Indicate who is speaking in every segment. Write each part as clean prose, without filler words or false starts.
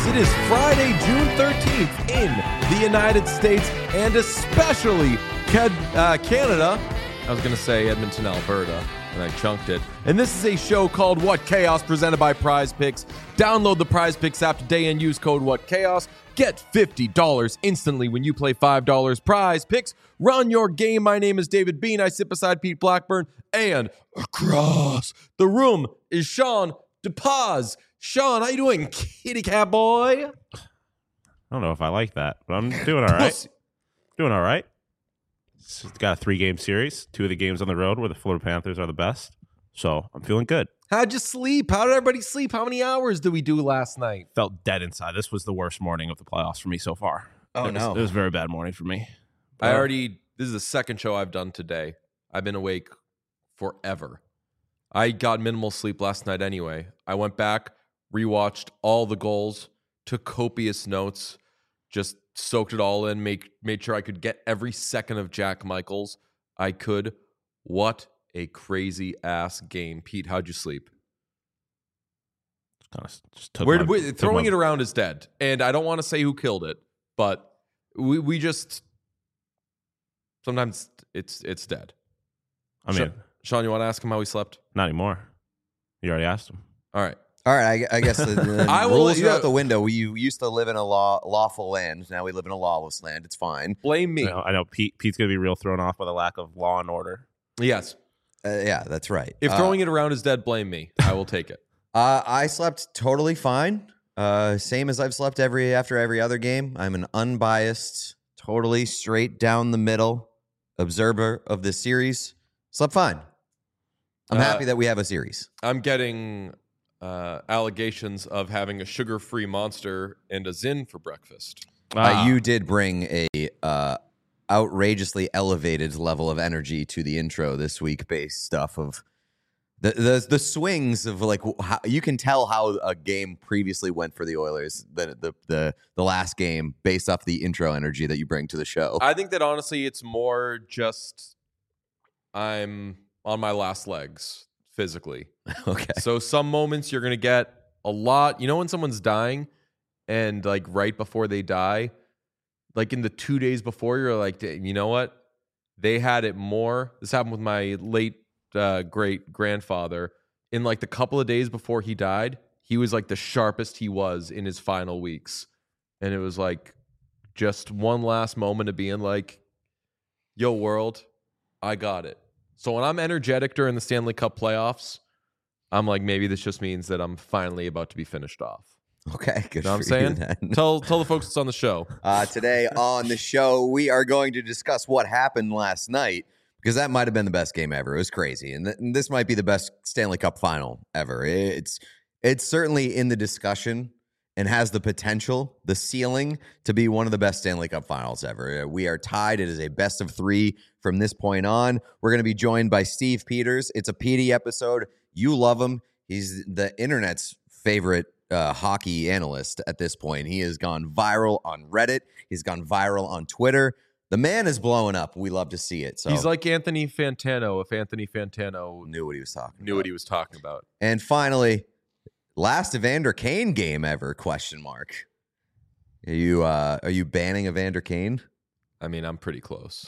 Speaker 1: It is Friday, June 13th in the United States and especially Canada. I was going to say Edmonton, Alberta, and I chunked it. And this is a show called What Chaos, presented by Prize Picks. Download the Prize Picks app today and use code What Chaos. Get $50 instantly when you play $5. Prize Picks. Run your game. My name is David Bean. I sit beside Pete Blackburn. And across the room is Sean DePaz. Sean, how you doing, kitty cat boy?
Speaker 2: I don't know if I like that, but I'm doing all right. Doing all right. It's got a 3-game series. 2 of the games on the road where the Florida Panthers are the best. So I'm feeling good.
Speaker 1: How'd you sleep? How did everybody sleep? How many hours did we do last night?
Speaker 2: Felt dead inside. This was the worst morning of the playoffs for me so far.
Speaker 1: Oh,
Speaker 2: It was a very bad morning for me.
Speaker 1: This is the second show I've done today. I've been awake forever. I got minimal sleep last night anyway. I went back, rewatched all the goals, took copious notes, just soaked it all in, made sure I could get every second of Jack Michaels I could. What a crazy ass game. Pete, how'd you sleep? Throwing it around is dead. And I don't want to say who killed it, but we just sometimes it's dead.
Speaker 2: I mean,
Speaker 1: Sean, you want to ask him how he slept?
Speaker 2: not anymore. You already asked him.
Speaker 1: All right.
Speaker 3: I guess the
Speaker 1: I will
Speaker 3: rules
Speaker 1: let
Speaker 3: are
Speaker 1: you-
Speaker 3: out the window. We used to live in a lawful land. Now we live in a lawless land. It's fine.
Speaker 1: Blame me.
Speaker 2: I know Pete's going to be real thrown off by the lack of law and order.
Speaker 1: Yes.
Speaker 3: Yeah, that's right.
Speaker 1: If throwing it around is dead, blame me. I will take it.
Speaker 3: I slept totally fine. Same as I've slept after every other game. I'm an unbiased, totally straight down the middle observer of this series. Slept fine. I'm happy that we have a series.
Speaker 1: I'm getting allegations of having a sugar-free Monster and a Zin for breakfast.
Speaker 3: You did bring a outrageously elevated level of energy to the intro this week, based stuff of the swings of like how you can tell how a game previously went for the Oilers, the last game, based off the intro energy that you bring to the show.
Speaker 1: I think that honestly, it's more just I'm on my last legs physically.
Speaker 3: Okay.
Speaker 1: So some moments you're going to get a lot. You know when someone's dying and like right before they die, like in the 2 days before, you're like, you know what? They had it more. This happened with my late great grandfather. In like the couple of days before he died, he was like the sharpest he was in his final weeks. And it was like just one last moment of being like, yo, world, I got it. So when I'm energetic during the Stanley Cup playoffs, I'm like, maybe this just means that I'm finally about to be finished off.
Speaker 3: Okay, good.
Speaker 1: You know what I'm
Speaker 3: for you
Speaker 1: saying?
Speaker 3: then.
Speaker 1: Tell the folks that's on the show.
Speaker 3: Today on the show, we are going to discuss what happened last night, because that might have been the best game ever. It was crazy, and this might be the best Stanley Cup final ever. It's certainly in the discussion and has the potential, the ceiling, to be one of the best Stanley Cup finals ever. We are tied. It is a best of 3 from this point on. We're going to be joined by Steve Peters. It's a PD episode. You love him. He's the internet's favorite hockey analyst at this point. He has gone viral on Reddit. He's gone viral on Twitter. The man is blowing up. We love to see it. So
Speaker 1: He's like Anthony Fantano if Anthony Fantano
Speaker 3: knew what he was talking
Speaker 1: knew what he was talking about.
Speaker 3: And finally, last Evander Kane game ever? Question mark. Are you banning Evander Kane?
Speaker 1: I mean, I'm pretty close.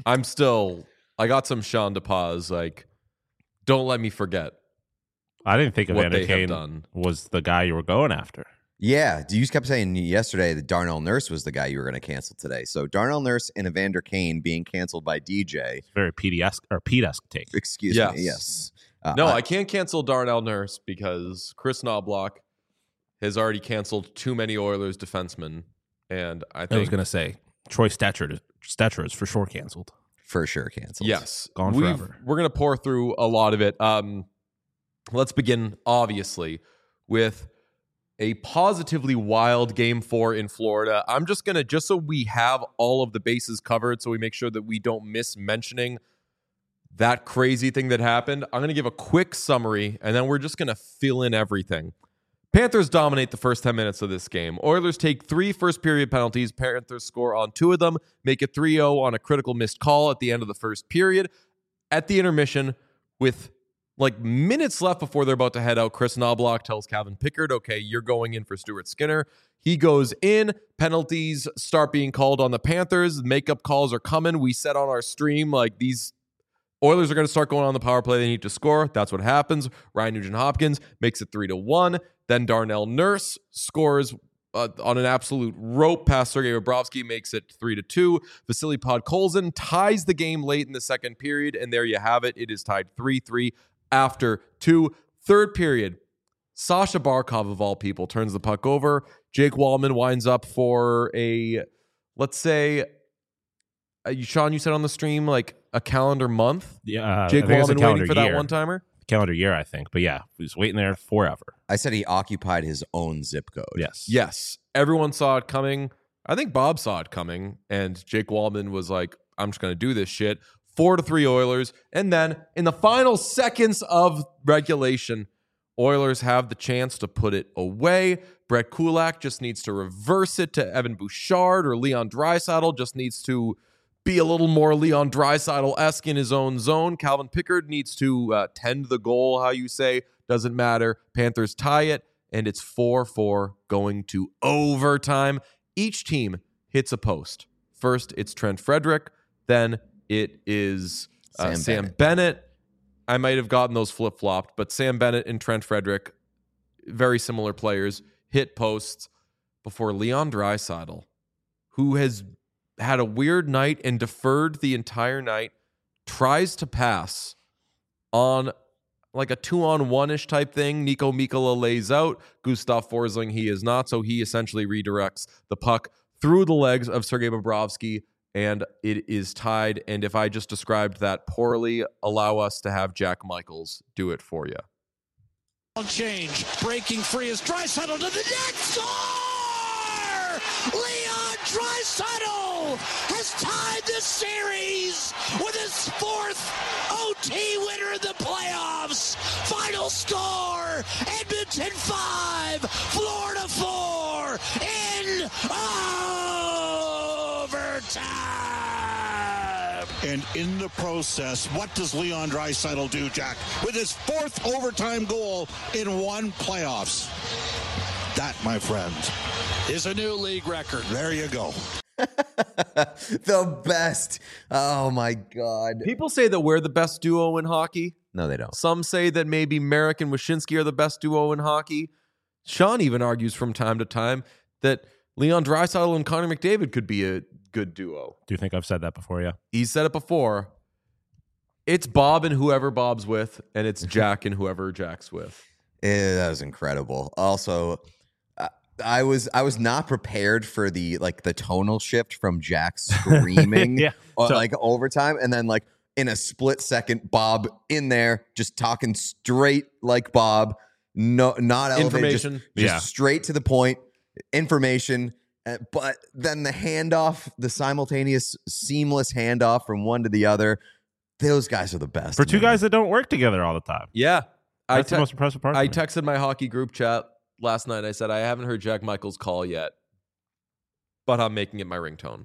Speaker 1: I got some Sean DePaz, like, don't let me forget.
Speaker 2: I didn't think
Speaker 1: What
Speaker 2: Evander
Speaker 1: they have
Speaker 2: Kane
Speaker 1: done.
Speaker 2: was the guy you were going after.
Speaker 3: Yeah, you kept saying yesterday that Darnell Nurse was the guy you were going to cancel today. So Darnell Nurse and Evander Kane being canceled by DJ.
Speaker 2: Very Pete-esque take.
Speaker 3: Excuse
Speaker 1: Yes.
Speaker 3: me. Yes.
Speaker 1: No, I can't cancel Darnell Nurse because Chris Knobloch has already canceled too many Oilers defensemen. And I
Speaker 2: I was
Speaker 1: think,
Speaker 2: going to say, Troy Stetcher is for sure canceled.
Speaker 3: For sure canceled.
Speaker 1: yes,
Speaker 2: Gone forever.
Speaker 1: We're going to pour through a lot of it. Let's begin, obviously, with a positively wild Game 4 in Florida. I'm just going to, just so we have all of the bases covered, so we make sure that we don't miss mentioning that crazy thing that happened, I'm going to give a quick summary, and then we're just going to fill in everything. Panthers dominate the first 10 minutes of this game. Oilers take 3 first-period penalties. Panthers score on 2 of them, make it 3-0 on a critical missed call at the end of the first period. At the intermission, with like minutes left before they're about to head out, Chris Knobloch tells Calvin Pickard, okay, you're going in for Stuart Skinner. He goes in. Penalties start being called on the Panthers. Makeup calls are coming. We said on our stream, like, these Oilers are going to start going on the power play. They need to score. That's what happens. Ryan Nugent-Hopkins makes it 3-1. Then Darnell Nurse scores on an absolute rope past Sergei Bobrovsky, makes it 3-2. Vasily Podkolzin ties the game late in the second period, and there you have it. It is tied 3-3 after 2. Third period, Sasha Barkov, of all people, turns the puck over. Jake Wallman winds up for a, let's say, Sean, you said on the stream, like a calendar month?
Speaker 2: Yeah.
Speaker 1: Jake
Speaker 2: I think it's a
Speaker 1: Wallman
Speaker 2: calendar
Speaker 1: waiting for that
Speaker 2: year.
Speaker 1: one-timer?
Speaker 2: Calendar year, I think. But yeah, he was waiting there forever.
Speaker 3: I said he occupied his own zip code.
Speaker 2: Yes.
Speaker 1: Yes. Everyone saw it coming. I think Bob saw it coming, and Jake Wallman was like, I'm just going to do this shit. 4-3 Oilers. And then in the final seconds of regulation, Oilers have the chance to put it away. Brett Kulak just needs to reverse it to Evan Bouchard, or Leon Draisaitl just needs to be a little more Leon Draisaitl-esque in his own zone. Calvin Pickard needs to tend the goal, how you say. Doesn't matter. Panthers tie it, and it's 4-4 going to overtime. Each team hits a post. First, it's Trent Frederick. Then it is Sam Bennett. I might have gotten those flip-flopped, but Sam Bennett and Trent Frederick, very similar players, hit posts before Leon Draisaitl, who has had a weird night and deferred the entire night, tries to pass on like a 2-on-1-ish type thing. Nico Mikkola lays out. Gustav Forsling, he is not, so he essentially redirects the puck through the legs of Sergei Bobrovsky, and it is tied. And if I just described that poorly, allow us to have Jack Michaels do it for you.
Speaker 4: Change, breaking free is Draisaitl to the net, score! Leon Draisaitl has tied the series with his 4th OT winner in the playoffs. Final score, Edmonton 5, Florida 4, in overtime.
Speaker 5: And in the process, what does Leon Draisaitl do, Jack? With his 4th overtime goal in one playoffs. That, my friends,
Speaker 4: Is a new league record.
Speaker 5: there you go.
Speaker 3: The best. Oh, my God.
Speaker 1: People say that we're the best duo in hockey.
Speaker 3: No, they don't.
Speaker 1: Some say that maybe Merrick and Wyshynski are the best duo in hockey. Sean even argues from time to time that Leon Draisaitl and Connor McDavid could be a good duo.
Speaker 2: Do you think I've said that before? Yeah.
Speaker 1: He said it before. It's Bob and whoever Bob's with, and it's Jack and whoever Jack's with.
Speaker 3: That was incredible. Also, I was not prepared for the tonal shift from Jack screaming
Speaker 2: Yeah.
Speaker 3: like overtime, and then like in a split second, Bob in there just talking straight like Bob, no, not elevated,
Speaker 1: Information.
Speaker 3: just straight to the point, information. But then the handoff, the simultaneous, seamless handoff from one to the other. Those guys are the best.
Speaker 2: For two
Speaker 3: man.
Speaker 2: guys that don't work together all the time.
Speaker 1: Yeah.
Speaker 2: That's the most impressive part.
Speaker 1: I
Speaker 2: to me.
Speaker 1: texted my hockey group chat last night. I said, I haven't heard Jack Michaels' call yet, but I'm making it my ringtone.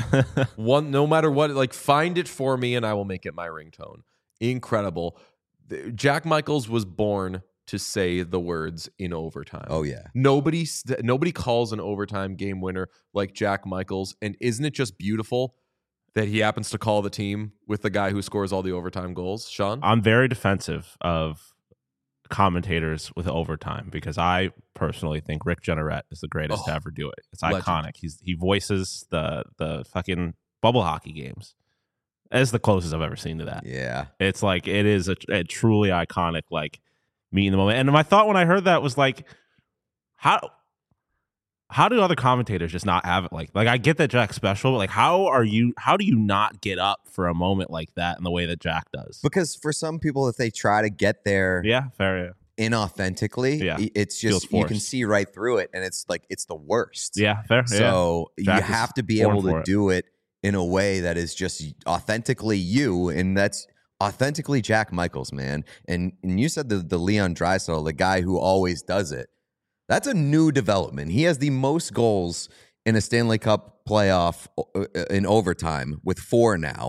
Speaker 1: No matter what, like, find it for me and I will make it my ringtone. Incredible. Jack Michaels was born to say the words in overtime.
Speaker 3: Oh yeah.
Speaker 1: Nobody calls an overtime game winner like Jack Michaels. And isn't it just beautiful that he happens to call the team with the guy who scores all the overtime goals? Sean?
Speaker 2: I'm very defensive of commentators with overtime because I personally think Rick Jeanneret is the greatest to ever do it. It's
Speaker 1: legend.
Speaker 2: iconic. He voices the fucking bubble hockey games. As the closest I've ever seen to that.
Speaker 3: Yeah.
Speaker 2: It's like it is a truly iconic like me in the moment. And my thought when I heard that was like, how do other commentators just not have it like I get that Jack's special, but like how do you not get up for a moment like that in the way that Jack does?
Speaker 3: Because for some people, if they try to get there
Speaker 2: Yeah, fair.
Speaker 3: inauthentically,
Speaker 2: Yeah.
Speaker 3: it's
Speaker 2: Feels
Speaker 3: just you can
Speaker 2: forced.
Speaker 3: see right through it, and it's like it's the worst.
Speaker 2: Yeah, fair.
Speaker 3: So
Speaker 2: Jack
Speaker 3: you
Speaker 2: is
Speaker 3: have to be
Speaker 2: born
Speaker 3: able
Speaker 2: for
Speaker 3: to
Speaker 2: it.
Speaker 3: do it in a way that is just authentically you, and that's authentically Jack Michaels, man. And you said the Leon Draisaitl, the guy who always does it. That's a new development. He has the most goals in a Stanley Cup playoff in overtime with 4 now.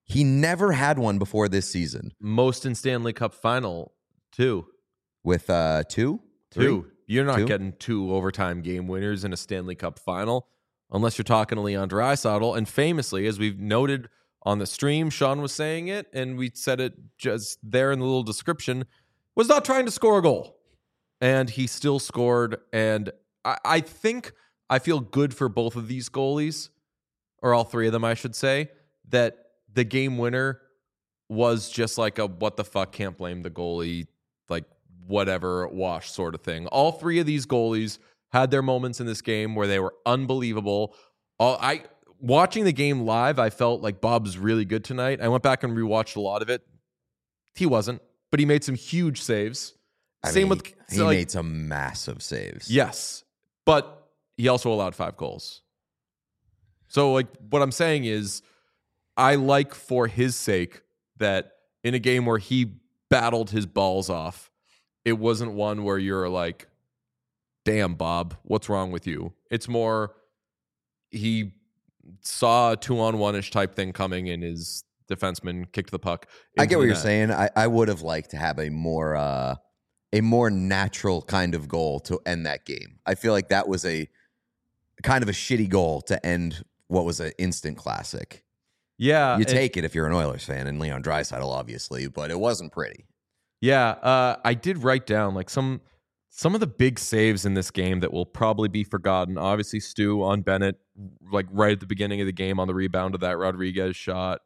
Speaker 3: He never had one before this season.
Speaker 1: Most in Stanley Cup final, 2.
Speaker 3: With 2?
Speaker 1: 2. You're not
Speaker 3: 2?
Speaker 1: getting 2 overtime game winners in a Stanley Cup final unless you're talking to Leon Draisaitl. And famously, as we've noted on the stream, Sean was saying it, and we said it just there in the little description, was not trying to score a goal. And he still scored. And I think I feel good for both of these goalies, or all 3 of them, I should say, that the game winner was just like a what the fuck, can't blame the goalie, like whatever, wash sort of thing. All 3 of these goalies had their moments in this game where they were unbelievable. Watching the game live, I felt like Bob's really good tonight. I went back and rewatched a lot of it. He wasn't, but he made some huge saves.
Speaker 3: He made some massive saves.
Speaker 1: Yes, but he also allowed 5 goals. So like what I'm saying is, I like for his sake that in a game where he battled his balls off, it wasn't one where you're like, damn, Bob, what's wrong with you? It's more he saw a 2-on-1-ish type thing coming and his defenseman kicked the puck.
Speaker 3: I get what you're saying. I would have liked to have a more natural kind of goal to end that game. I feel like that was a kind of a shitty goal to end what was an instant classic.
Speaker 1: Yeah.
Speaker 3: You take it if you're an Oilers fan, and Leon Draisaitl, obviously, but it wasn't pretty.
Speaker 1: Yeah, I did write down like some of the big saves in this game that will probably be forgotten. Obviously, Stu on Bennett, like right at the beginning of the game on the rebound of that Rodriguez shot.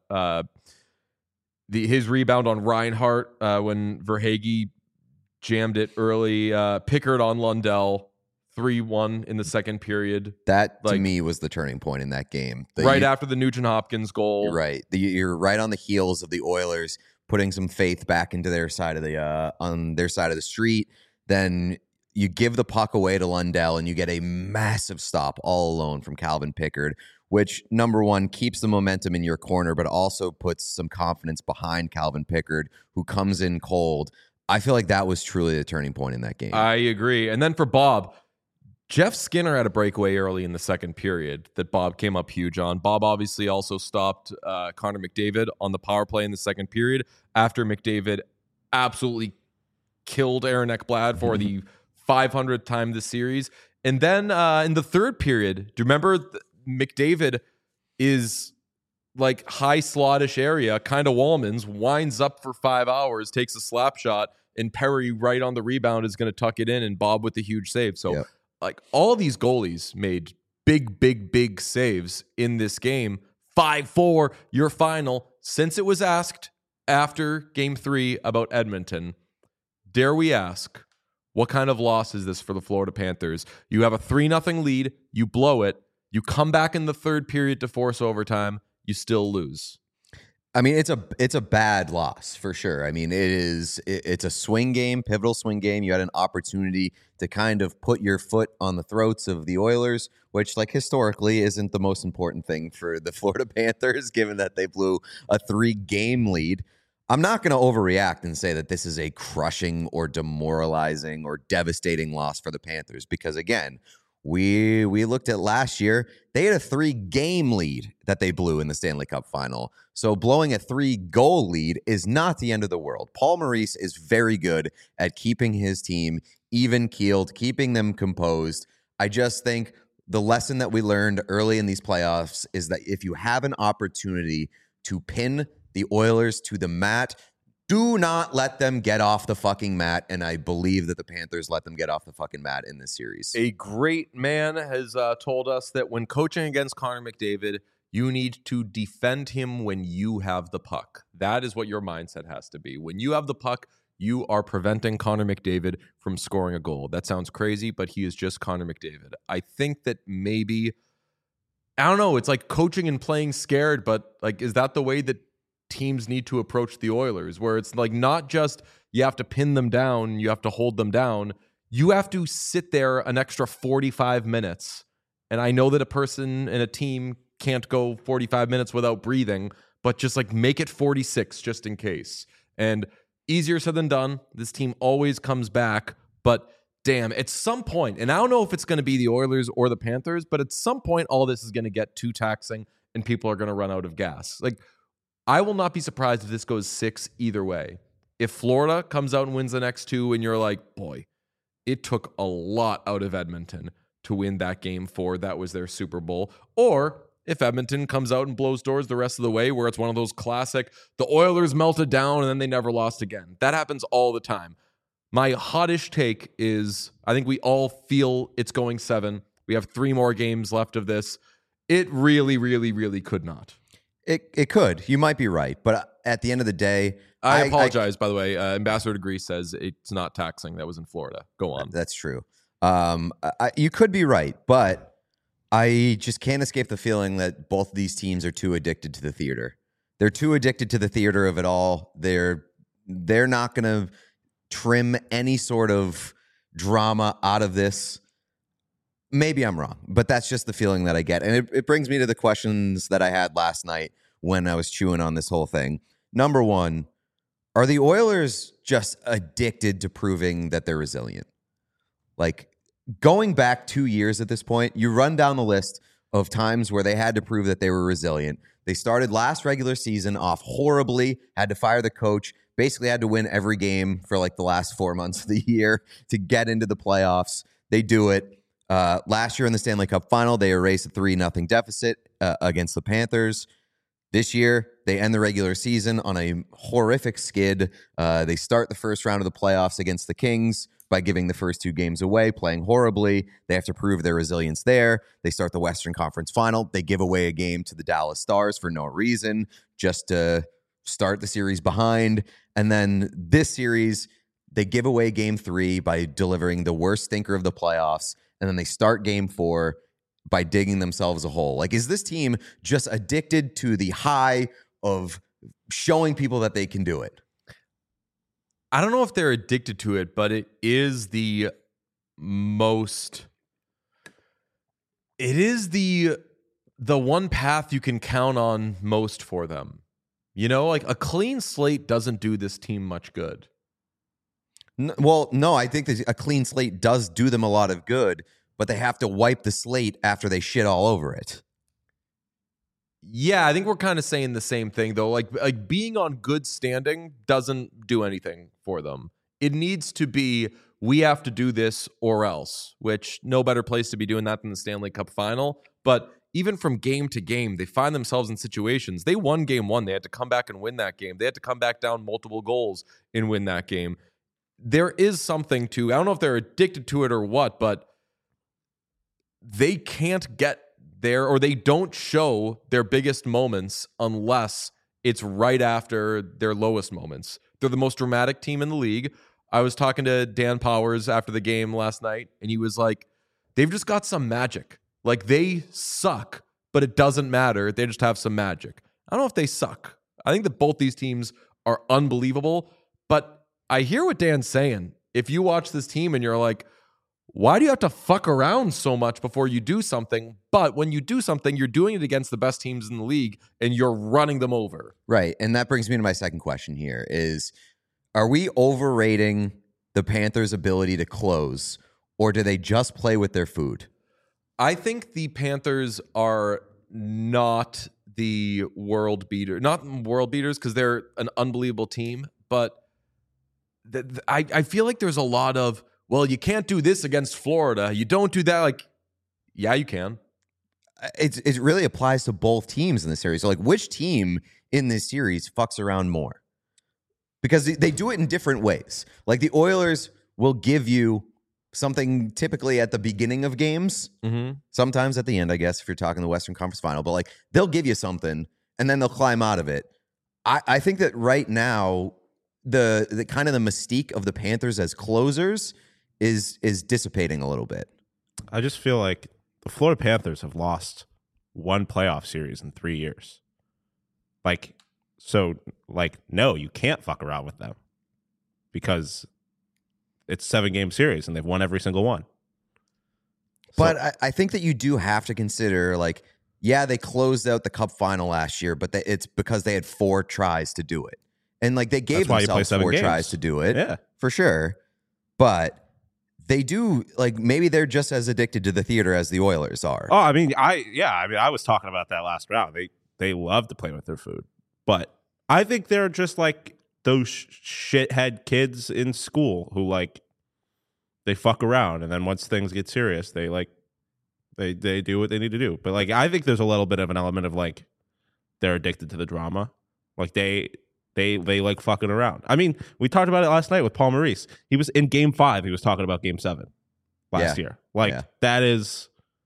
Speaker 1: His rebound on Reinhart when Verhaeghe jammed it early. Pickard on Lundell. 3-1 in the second period.
Speaker 3: That, to me, was the turning point in that game.
Speaker 1: After the Nugent-Hopkins goal.
Speaker 3: You're right. You're right on the heels of the Oilers putting some faith back into their side of the street. Then you give the puck away to Lundell, and you get a massive stop all alone from Calvin Pickard, which, number one, keeps the momentum in your corner, but also puts some confidence behind Calvin Pickard, who comes in cold. I feel like that was truly the turning point in that game.
Speaker 1: I agree. And then for Bob, Jeff Skinner had a breakaway early in the second period that Bob came up huge on. Bob obviously also stopped Connor McDavid on the power play in the second period after McDavid absolutely killed Aaron Ekblad for the 500th time this series. And then in the third period, do you remember McDavid is like high slottish area, kind of Wallman's, winds up for 5 hours, takes a slap shot, and Perry right on the rebound is going to tuck it in, and Bob with the huge save. So,
Speaker 3: yep.
Speaker 1: Like all these goalies made big saves in this game. 5-4, your final. Since it was asked after Game 3 about Edmonton, dare we ask, what kind of loss is this for the Florida Panthers? You have a 3-0 lead, you blow it, you come back in the third period to force overtime, you still lose.
Speaker 3: I mean, it's a bad loss for sure. I mean, it's a swing game, pivotal swing game. You had an opportunity to kind of put your foot on the throats of the Oilers, which, like, historically isn't the most important thing for the Florida Panthers, given that they blew a 3-game lead. I'm not going to overreact and say that this is a crushing or demoralizing or devastating loss for the Panthers, because again, we looked at last year. They had a 3-game lead that they blew in the Stanley Cup final. So blowing a 3-goal lead is not the end of the world. Paul Maurice is very good at keeping his team even-keeled, keeping them composed. I just think the lesson that we learned early in these playoffs is that if you have an opportunity to pin the Oilers to the mat, do not let them get off the fucking mat, and I believe that the Panthers let them get off the fucking mat in this series.
Speaker 1: A great man has told us that when coaching against Connor McDavid, you need to defend him when you have the puck. That is what your mindset has to be. When you have the puck, you are preventing Connor McDavid from scoring a goal. That sounds crazy, but he is just Connor McDavid. I think that maybe, I don't know, it's like coaching and playing scared, but like, is that the way that teams need to approach the Oilers, where it's like not just you have to pin them down, you have to hold them down, you have to sit there an extra 45 minutes. And I know that a person and a team can't go 45 minutes without breathing, but just like make it 46 just in case. And easier said than done. This team always comes back, but damn, at some point, and I don't know if it's going to be the Oilers or the Panthers, but at some point all this is going to get too taxing and people are going to run out of gas. Like, I will not be surprised if this goes 6 either way. If Florida comes out and wins the next 2 and you're like, boy, it took a lot out of Edmonton to win that game 4. That was their Super Bowl. Or if Edmonton comes out and blows doors the rest of the way, where it's one of those classic, the Oilers melted down and then they never lost again. That happens all the time. My hottish take is I think we all feel it's going 7. We have 3 more games left of this. It really, really, really could not.
Speaker 3: It could. You might be right. But at the end of the day,
Speaker 1: I apologize, by the way. Ambassador Degree says it's not taxing. That was in Florida. Go on.
Speaker 3: That's true. You could be right, but I just can't escape the feeling that both of these teams are too addicted to the theater. They're too addicted to the theater of it all. They're not going to trim any sort of drama out of this. Maybe I'm wrong, but that's just the feeling that I get. And it brings me to the questions that I had last night when I was chewing on this whole thing. Number one, are the Oilers just addicted to proving that they're resilient? Like, going back 2 years at this point, you run down the list of times where they had to prove that they were resilient. They started last regular season off horribly, had to fire the coach, basically had to win every game for like the last 4 months of the year to get into the playoffs. They do it. Last year in the Stanley Cup final, they erased a 3-0 deficit against the Panthers. This year, they end the regular season on a horrific skid. They start the first round of the playoffs against the Kings by giving the first 2 games away, playing horribly. They have to prove their resilience there. They start the Western Conference final. They give away a game to the Dallas Stars for no reason, just to start the series behind. And then this series, they give away game 3 by delivering the worst stinker of the playoffs. And then they start game 4 by digging themselves a hole. Like, is this team just addicted to the high of showing people that they can do it?
Speaker 1: I don't know if they're addicted to it, but it is the one path you can count on most for them. You know, like a clean slate doesn't do this team much good.
Speaker 3: Well, no, I think that a clean slate does do them a lot of good, but they have to wipe the slate after they shit all over it.
Speaker 1: Yeah, I think we're kind of saying the same thing, though. Like being on good standing doesn't do anything for them. It needs to be, we have to do this or else, which no better place to be doing that than the Stanley Cup final. But even from game to game, they find themselves in situations. They won game 1. They had to come back and win that game. They had to come back down multiple goals and win that game. There is something to, I don't know if they're addicted to it or what, but they can't get there, or they don't show their biggest moments unless it's right after their lowest moments. They're the most dramatic team in the league. I was talking to Dan Powers after the game last night, and he was like, they've just got some magic. Like, they suck, but it doesn't matter. They just have some magic. I don't know if they suck. I think that both these teams are unbelievable, but I hear what Dan's saying. If you watch this team and you're like, why do you have to fuck around so much before you do something? But when you do something, you're doing it against the best teams in the league and you're running them over.
Speaker 3: Right. And that brings me to my second question here is, are we overrating the Panthers' ability to close, or do they just play with their food?
Speaker 1: I think the Panthers are not the world beater, not world beaters because they're an unbelievable team, but I feel like there's a lot of, well, you can't do this against Florida. You don't do that. Like, yeah, you can.
Speaker 3: It really applies to both teams in this series. So, like, which team in this series fucks around more? Because they do it in different ways. Like, the Oilers will give you something typically at the beginning of games, sometimes at the end, I guess, if you're talking the Western Conference Final. But, like, they'll give you something, and then they'll climb out of it. I think that right now, the kind of the mystique of the Panthers as closers is dissipating a little bit.
Speaker 2: I just feel like the Florida Panthers have lost one playoff series in 3 years. No, you can't fuck around with them because it's a 7-game series and they've won every single one.
Speaker 3: But I think that you do have to consider, like, yeah, they closed out the Cup final last year, but it's because they had 4 tries to do it. And, like, they gave themselves 4 tries to do it,
Speaker 2: yeah,
Speaker 3: for sure. But they do, like, maybe they're just as addicted to the theater as the Oilers are.
Speaker 2: Oh, I was talking about that last round. They love to play with their food, but I think they're just like those shithead kids in school who like they fuck around, and then once things get serious, they do what they need to do. But like I think there's a little bit of an element of like they're addicted to the drama. Like they like fucking around. I mean, we talked about it last night with Paul Maurice. He was in Game 5. He was talking about Game 7 last year. Like that is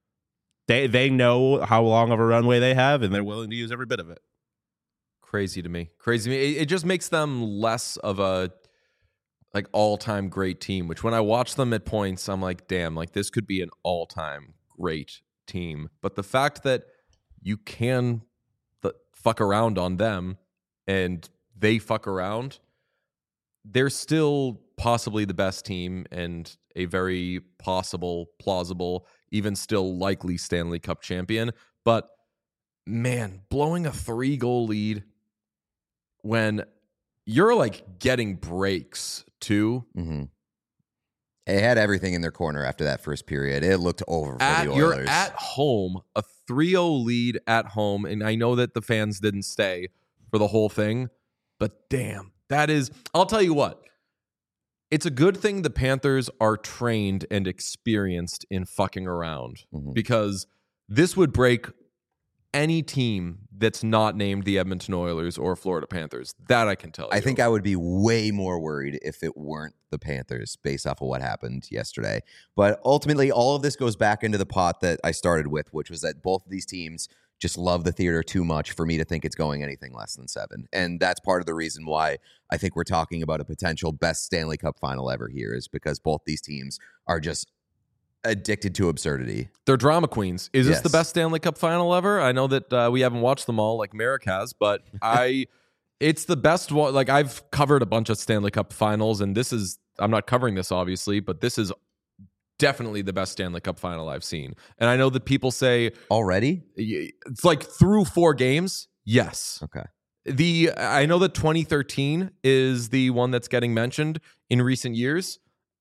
Speaker 2: they know how long of a runway they have, and they're willing to use every bit of it.
Speaker 1: Crazy to me. It just makes them less of a like all-time great team, which when I watch them at points, I'm like, damn, like this could be an all-time great team. But the fact that you can fuck around on them and they fuck around, they're still possibly the best team and a very plausible, even still likely Stanley Cup champion. But man, blowing a 3-goal lead when you're like getting breaks too.
Speaker 3: Mm-hmm. They had everything in their corner after that first period. It looked over for the Oilers.
Speaker 1: You're at home, a 3-0 lead at home, and I know that the fans didn't stay for the whole thing, but damn, that is, I'll tell you what, it's a good thing the Panthers are trained and experienced in fucking around, because this would break any team that's not named the Edmonton Oilers or Florida Panthers. That I can tell you.
Speaker 3: I think I would be way more worried if it weren't the Panthers based off of what happened yesterday. But ultimately, all of this goes back into the pot that I started with, which was that both of these teams just love the theater too much for me to think it's going anything less than 7. And that's part of the reason why I think we're talking about a potential best Stanley Cup final ever here, is because both these teams are just addicted to absurdity.
Speaker 1: They're drama queens. Is this
Speaker 3: Yes.
Speaker 1: the best Stanley Cup final ever? I know that we haven't watched them all like Merrick has, but it's the best one. Like I've covered a bunch of Stanley Cup finals, and I'm not covering this obviously, but this is definitely the best Stanley Cup final I've seen. And I know that people say
Speaker 3: Already?
Speaker 1: it's like through 4 games. Yes.
Speaker 3: Okay.
Speaker 1: I know that 2013 is the one that's getting mentioned in recent years.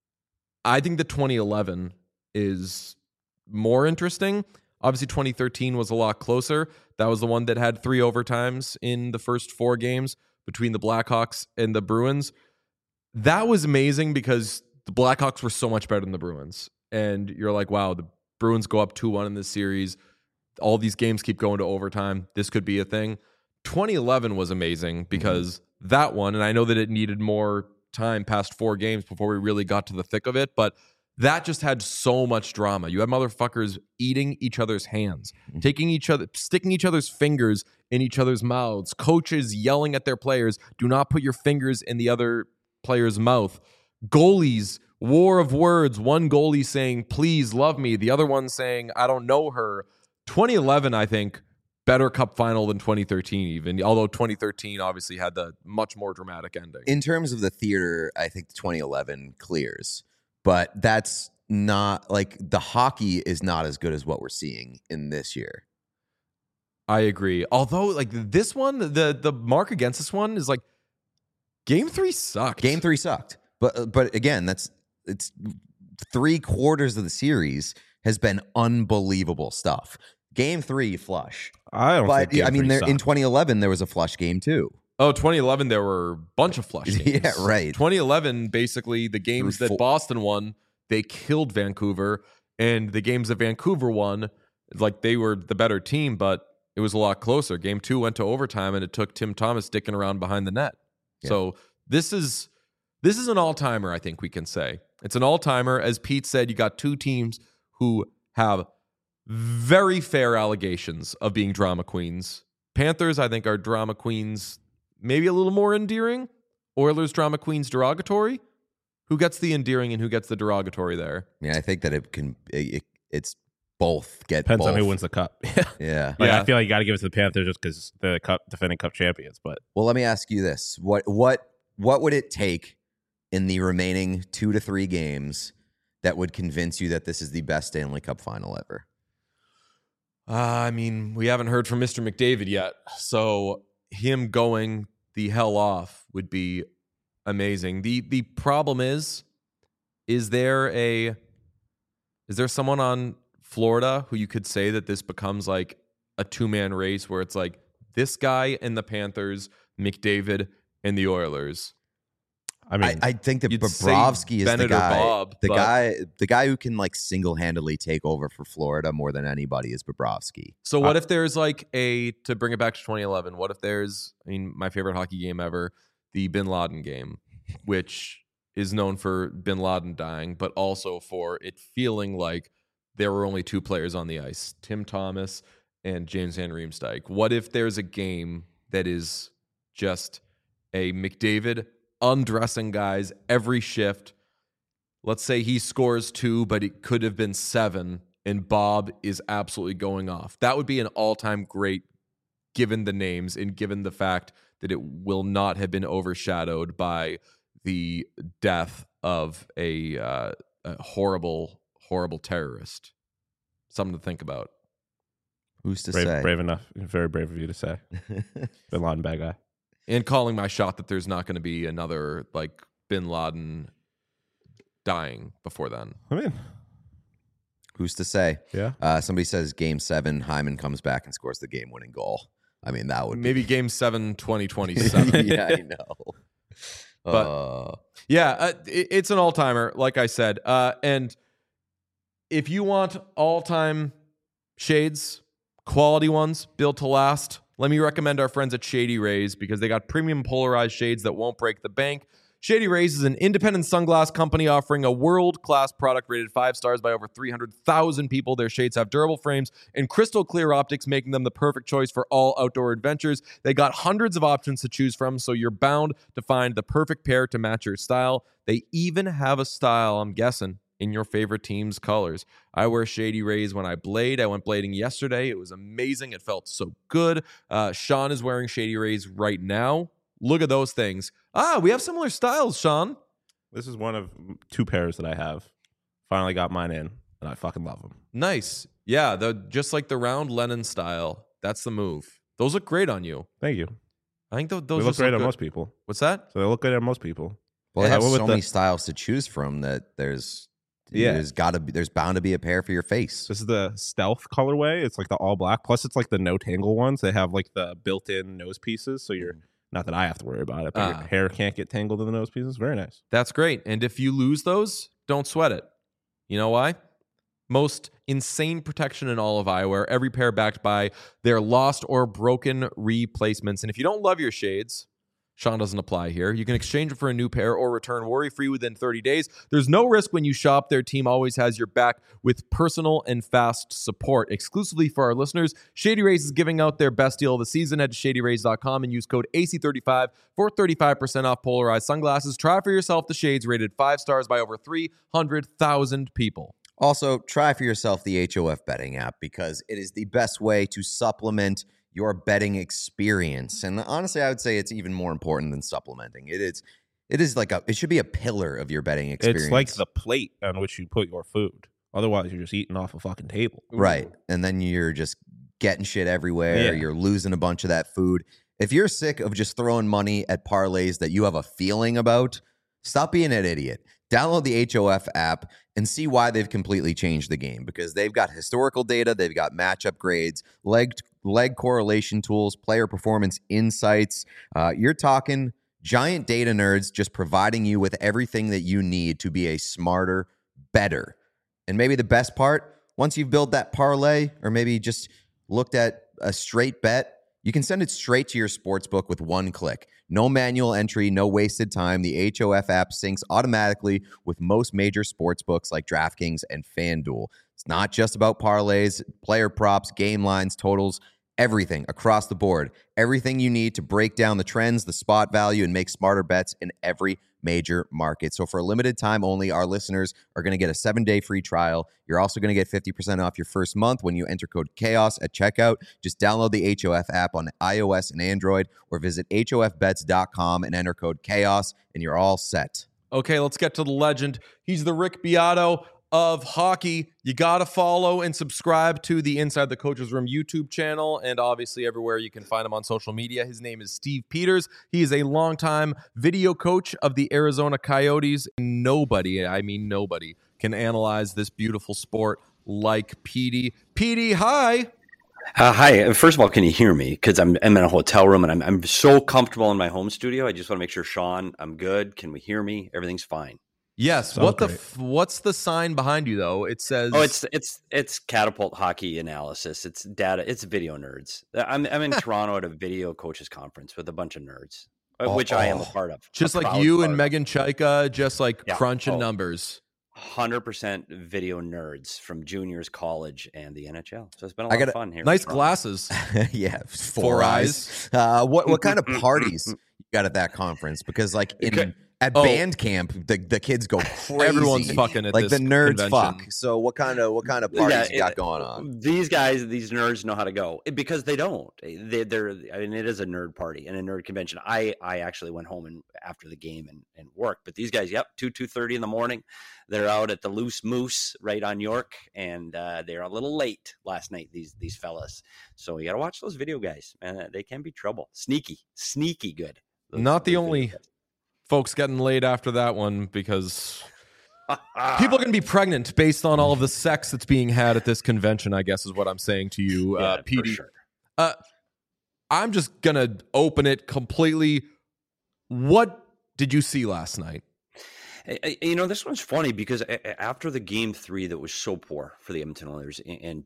Speaker 1: I think that 2011 is more interesting. Obviously, 2013 was a lot closer. That was the one that had 3 overtimes in the first 4 games between the Blackhawks and the Bruins. That was amazing because the Blackhawks were so much better than the Bruins. And you're like, wow, the Bruins go up 2-1 in this series. All these games keep going to overtime. This could be a thing. 2011 was amazing because that one, and I know that it needed more time past 4 games before we really got to the thick of it, but that just had so much drama. You had motherfuckers eating each other's hands, sticking each other's fingers in each other's mouths, coaches yelling at their players, do not put your fingers in the other player's mouth. Goalies, war of words, one goalie saying, please love me, the other one saying, I don't know her. 2011, I think, better cup final than 2013 even, although 2013 obviously had the much more dramatic ending.
Speaker 3: In terms of the theater, I think 2011 clears. But that's not, like, the hockey is not as good as what we're seeing in this year.
Speaker 1: I agree. Although, like, this one, the mark against this one is, like, Game 3 sucked.
Speaker 3: Game 3 sucked. But again, it's 3/4 of the series has been unbelievable stuff. Game 3, flush.
Speaker 2: I don't think Game 3
Speaker 3: in 2011, there was a flush game, too.
Speaker 1: Oh, 2011, there were a bunch of flush games.
Speaker 3: Yeah, right.
Speaker 1: 2011, basically, the games that Boston won, they killed Vancouver. And the games that Vancouver won, like, they were the better team, but it was a lot closer. Game 2 went to overtime, and it took Tim Thomas dicking around behind the net. Yeah. So this is an all-timer, I think we can say. It's an all-timer. As Pete said, you got 2 teams who have very fair allegations of being drama queens. Panthers, I think, are drama queens maybe a little more endearing. Oilers, drama queens, derogatory. Who gets the endearing and who gets the derogatory there?
Speaker 3: Yeah, I think that it's both.
Speaker 2: Depends on who wins the cup.
Speaker 3: Yeah.
Speaker 2: Like, I feel like you got to give it to the Panthers just because they're the defending cup champions. But
Speaker 3: well, let me ask you this: what would it take in the remaining 2 to 3 games that would convince you that this is the best Stanley Cup final ever?
Speaker 1: I mean, we haven't heard from Mr. McDavid yet, so him going the hell off would be amazing. The problem is there someone on Florida who you could say that this becomes like a 2-man race where it's like this guy and the Panthers, McDavid, and the Oilers.
Speaker 2: I mean,
Speaker 3: I think that
Speaker 1: you'd say
Speaker 3: Bobrovsky is
Speaker 1: Bennett
Speaker 3: the
Speaker 1: or
Speaker 3: guy.
Speaker 1: Bob,
Speaker 3: the
Speaker 1: but-
Speaker 3: guy who can like single-handedly take over for Florida more than anybody is Bobrovsky.
Speaker 1: So what if there's like to bring it back to 2011, what if there's, my favorite hockey game ever, the Bin Laden game, which is known for Bin Laden dying, but also for it feeling like there were only two players on the ice, Tim Thomas and James Van Riemsdyk. What if there's a game that is just a McDavid undressing guys every shift? Let's say he scores 2, but it could have been 7, and Bob is absolutely going off. That would be an all-time great, given the names and given the fact that it will not have been overshadowed by the death of a horrible, horrible terrorist. Something to think about.
Speaker 3: Who's to say?
Speaker 2: brave enough. Very brave of you to say. Bin Laden, bad guy.
Speaker 1: And calling my shot that there's not going to be another like Bin Laden dying before then.
Speaker 2: I mean,
Speaker 3: Who's to say?
Speaker 2: yeah.
Speaker 3: Somebody says Game 7, Hyman comes back and scores the game-winning goal. I mean, that would
Speaker 1: Maybe Game 7, 2027.
Speaker 3: yeah, I know.
Speaker 1: But- Yeah, it's an all-timer, like I said. And if you want all-time shades, quality ones, built to last, let me recommend our friends at Shady Rays because they got premium polarized shades that won't break the bank. Shady Rays is an independent sunglass company offering a world-class product rated 5 stars by over 300,000 people. Their shades have durable frames and crystal clear optics, making them the perfect choice for all outdoor adventures. They got hundreds of options to choose from, so you're bound to find the perfect pair to match your style. They even have a style, I'm guessing, in your favorite team's colors. I wear Shady Rays when I blade. I went blading yesterday. It was amazing. It felt so good. Sean is wearing Shady Rays right now. Look at those things. We have similar styles, Sean.
Speaker 2: This is one of 2 pairs that I have. Finally got mine in, and I fucking love them.
Speaker 1: Nice. Yeah, just like the round Lennon style. That's the move. Those look great on you.
Speaker 2: Thank you.
Speaker 1: I think those
Speaker 2: They look
Speaker 1: just
Speaker 2: great on
Speaker 1: good.
Speaker 2: most people.
Speaker 1: What's that?
Speaker 2: So they look good on most people.
Speaker 3: Well, they
Speaker 2: Yeah,
Speaker 3: have
Speaker 2: I went
Speaker 3: so
Speaker 2: with
Speaker 3: many
Speaker 2: the-
Speaker 3: styles to choose from that there's
Speaker 2: Yeah.
Speaker 3: there's bound to be a pair for your face.
Speaker 2: This is the stealth colorway. It's like the all black. Plus, it's like the no tangle ones. They have like the built-in nose pieces, so you're not that I have to worry about it, but your hair can't get tangled in the nose pieces. Very nice.
Speaker 1: That's great. And if you lose those, don't sweat it. You know why? Most insane protection in all of eyewear, every pair backed by their lost or broken replacements. And if you don't love your shades, Sean doesn't apply here. You can exchange it for a new pair or return worry-free within 30 days. There's no risk when you shop. Their team always has your back with personal and fast support. Exclusively for our listeners, Shady Rays is giving out their best deal of the season. Head to shadyrays.com and use code AC35 for 35% off polarized sunglasses. Try for yourself the shades rated 5 stars by over 300,000 people.
Speaker 3: Also, try for yourself the HOF betting app because it is the best way to supplement your betting experience. And honestly, I would say it's even more important than supplementing. It is like it should be a pillar of your betting experience.
Speaker 2: It's like the plate on which you put your food. Otherwise, you're just eating off a fucking table.
Speaker 3: Right. And then you're just getting shit everywhere.
Speaker 2: Yeah.
Speaker 3: You're losing a bunch of that food. If you're sick of just throwing money at parlays that you have a feeling about, stop being an idiot. Download the HOF app and see why they've completely changed the game because they've got historical data, they've got matchup grades, leg correlation tools, player performance insights. You're talking giant data nerds just providing you with everything that you need to be a smarter, better. And maybe the best part, once you've built that parlay or maybe just looked at a straight bet, you can send it straight to your sportsbook with one click. No manual entry, no wasted time. The HOF app syncs automatically with most major sportsbooks like DraftKings and FanDuel. It's not just about parlays, player props, game lines, totals, everything across the board. Everything you need to break down the trends, the spot value, and make smarter bets in every major market. So for a limited time only, our listeners are going to get a 7-day free trial. You're also going to get 50% off your first month when you enter code CHAOS at checkout. Just download the HOF app on iOS and Android or visit hofbets.com and enter code CHAOS and you're all set.
Speaker 1: Okay, let's get to the legend. He's the Rick Beato of hockey. You got to follow and subscribe to the Inside the Coach's Room YouTube channel and obviously everywhere you can find him on social media. His name is Steve Peters. He is a longtime video coach of the Arizona Coyotes. Nobody, I mean nobody, can analyze this beautiful sport like Petey. Petey, hi.
Speaker 6: Hi. First of all, can you hear me? Because I'm in a hotel room and I'm so comfortable in my home studio. I just want to make sure, Sean, I'm good. Can we hear me? Everything's fine.
Speaker 1: Yes.
Speaker 2: Sounds great.
Speaker 1: What's the sign behind you though? It says
Speaker 6: It's Catapult Hockey Analysis. It's data. It's video nerds. I'm in Toronto at a video coaches conference with a bunch of nerds, which I am a part of.
Speaker 1: just like you and Megan Chaika, just like crunching numbers.
Speaker 6: 100% video nerds from juniors, college, and the NHL. So it's been a lot of fun here.
Speaker 1: Nice glasses.
Speaker 3: Yeah, four eyes. What kind of parties you got at that conference? Because like at band camp, the kids go crazy.
Speaker 1: Everyone's fucking at
Speaker 3: like
Speaker 1: this
Speaker 3: the nerds
Speaker 1: convention.
Speaker 3: fuck. So what kind of parties you got going on?
Speaker 6: These guys, these nerds know how to go because they don't. They're. I mean, it is a nerd party and a nerd convention. I actually went home and after the game and worked. But these guys, 2:30 in the morning, they're out at the Loose Moose right on York, and they're a little late last night. These fellas. So you got to watch those video guys, man. They can be trouble. Sneaky good.
Speaker 1: Not the only folks getting laid after that one, because people are going to be pregnant based on all of the sex that's being had at this convention, I guess is what I'm saying to you, PD.
Speaker 6: Sure.
Speaker 1: I'm just going to open it completely. What did you see last night?
Speaker 6: You know, this one's funny because after the game 3 that was so poor for the Edmonton Oilers and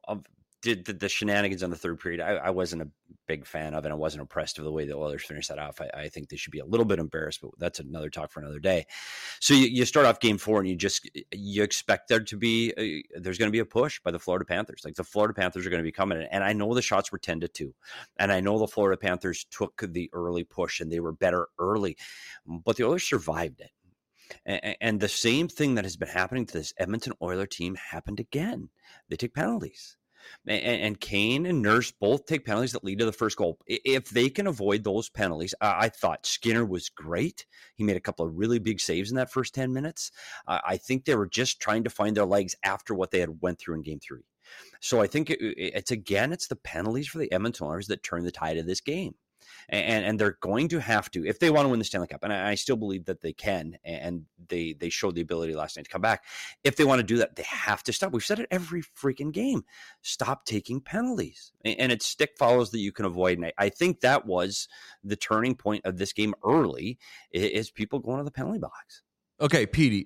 Speaker 6: did the shenanigans on the third period, I wasn't a big fan of, and I wasn't impressed with the way the Oilers finished that off. I think they should be a little bit embarrassed, but that's another talk for another day. So you start off game 4 and you expect there to be there's going to be a push by the Florida Panthers. Like the Florida Panthers are going to be coming, and I know the shots were 10-2, and I know the Florida Panthers took the early push and they were better early, but the Oilers survived it. And the same thing that has been happening to this Edmonton Oilers team happened again. They take penalties. And Kane and Nurse both take penalties that lead to the first goal. If they can avoid those penalties, I thought Skinner was great. He made a couple of really big saves in that first 10 minutes. I think they were just trying to find their legs after what they had went through in game 3. So I think it's the penalties for the Edmonton Oilers that turn the tide of this game. And they're going to have to, if they want to win the Stanley Cup, and I still believe that they can, and they showed the ability last night to come back. If they want to do that, they have to stop. We've said it every freaking game. Stop taking penalties. And it's stick follows that you can avoid. And I think that was the turning point of this game early, is people going to the penalty box.
Speaker 1: Okay, Petey,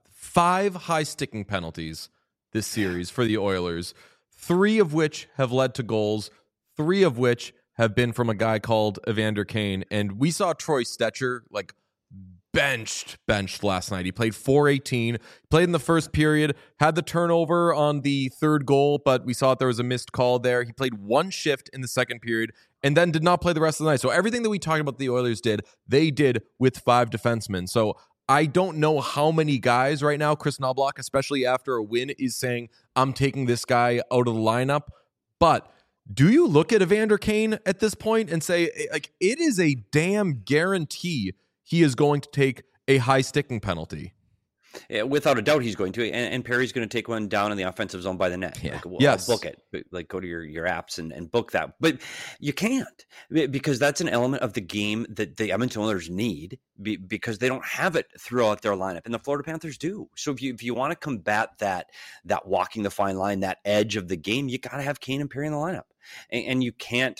Speaker 1: 5 high sticking penalties this series for the Oilers, 3 of which have led to goals, 3 of which have been from a guy called Evander Kane. And we saw Troy Stecher like benched last night. He played 4:18, played in the first period, had the turnover on the third goal, but we saw that there was a missed call there. He played 1 shift in the second period and then did not play the rest of the night. So everything that we talked about the Oilers did, they did with 5 defensemen. So I don't know how many guys right now, Chris Knobloch, especially after a win, is saying, I'm taking this guy out of the lineup. But do you look at Evander Kane at this point and say, like, it is a damn guarantee he is going to take a high sticking penalty?
Speaker 6: Yeah, without a doubt, he's going to. And Perry's going to take one down in the offensive zone by the net.
Speaker 3: Yeah.
Speaker 6: I'll book it. Like, go to your apps and book that. But you can't, because that's an element of the game that the Edmonton Oilers need, because they don't have it throughout their lineup, and the Florida Panthers do. So if you want to combat that walking the fine line, that edge of the game, you got to have Kane and Perry in the lineup. And you can't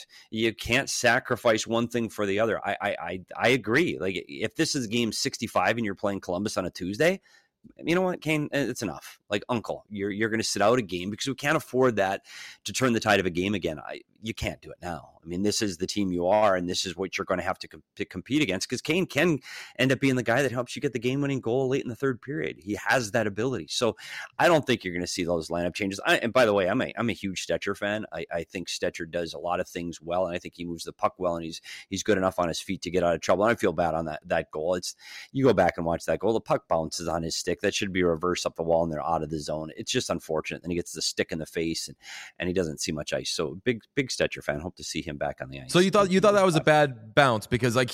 Speaker 6: sacrifice one thing for the other. I agree. Like, if this is game 65 and you're playing Columbus on a Tuesday, you know what, Kane, it's enough. Like, uncle, you're going to sit out a game because we can't afford that to turn the tide of a game again. You can't do it now. I mean, this is the team you are, and this is what you're going to have to compete against, because Kane can end up being the guy that helps you get the game-winning goal late in the third period. He has that ability. So I don't think you're going to see those lineup changes. And by the way, I'm a huge Stecher fan. I think Stecher does a lot of things well, and I think he moves the puck well, and he's good enough on his feet to get out of trouble. And I feel bad on that goal. You go back and watch that goal, the puck bounces on his stick. That should be reversed up the wall, and they're out of the zone. It's just unfortunate. Then he gets the stick in the face, and he doesn't see much ice. So big Stecher fan. Hope to see him back on the ice.
Speaker 1: So you thought that was a bad bounce, because like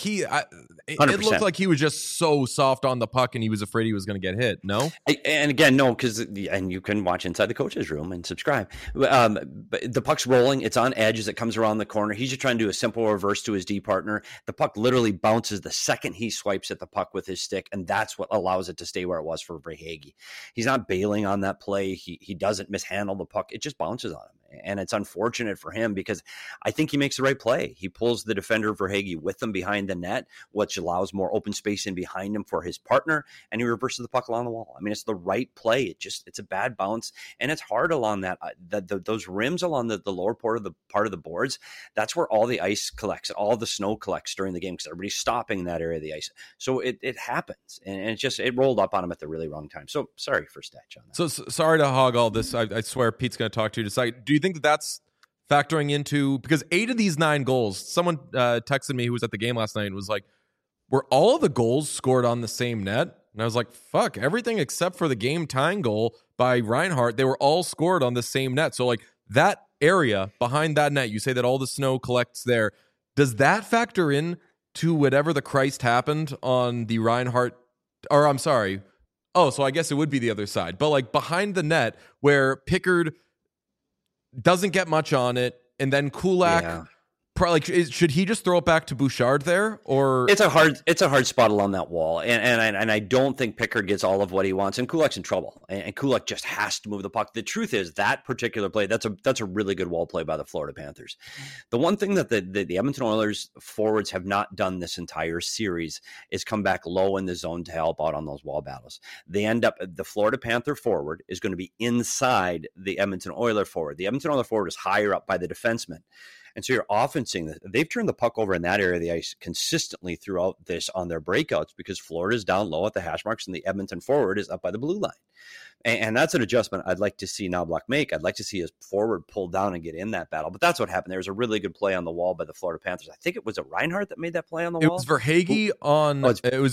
Speaker 1: it looked like he was just so soft on the puck and he was afraid he was going to get hit. No,
Speaker 6: and again, no, and you can watch Inside the Coach's Room and subscribe. But the puck's rolling; it's on edge as it comes around the corner. He's just trying to do a simple reverse to his D partner. The puck literally bounces the second he swipes at the puck with his stick, and that's what allows it to stay where it was for Verhaeghe. He's not bailing on that play. He doesn't mishandle the puck. It just bounces on him. And it's unfortunate for him because I think he makes the right play. He pulls the defender Verhaeghe with him behind the net, which allows more open space in behind him for his partner, and he reverses the puck along the wall. I mean, it's the right play. It's a bad bounce, and it's hard along that those rims along the lower part of the boards. That's where all the ice collects, all the snow collects during the game because everybody's stopping in that area of the ice. So it happens, and it rolled up on him at the really wrong time. So sorry for Stetch on that.
Speaker 1: So sorry to hog all this. I swear Pete's going to talk to you. Decide. Do you think that's factoring into, because 8 of these 9 goals, someone texted me who was at the game last night and was like, were all of the goals scored on the same net? And I was like, fuck, everything except for the game tying goal by Reinhart, they were all scored on the same net. So like that area behind that net, you say that all the snow collects there. Does that factor in to whatever the Christ happened on the Reinhart, or I'm sorry. Oh, so I guess it would be the other side. But like behind the net where Pickard doesn't get much on it, and then Kulak, probably should he just throw it back to Bouchard there, or
Speaker 6: it's a hard spot along that wall, and I don't think Pickard gets all of what he wants, and Kulak's in trouble, and Kulak just has to move the puck. The truth is that particular play, that's a really good wall play by the Florida Panthers. The one thing that the Edmonton Oilers forwards have not done this entire series is come back low in the zone to help out on those wall battles. They end up, the Florida Panther forward is going to be inside the Edmonton Oiler forward. The Edmonton Oiler forward is higher up by the defenseman. And so you're often seeing that they've turned the puck over in that area of the ice consistently throughout this on their breakouts because Florida's down low at the hash marks and the Edmonton forward is up by the blue line. And that's an adjustment I'd like to see Knoblauch make. I'd like to see his forward pull down and get in that battle. But that's what happened. There was a really good play on the wall by the Florida Panthers. I think it was Reinhart that made that play on the wall.
Speaker 1: It was Verhaeghe on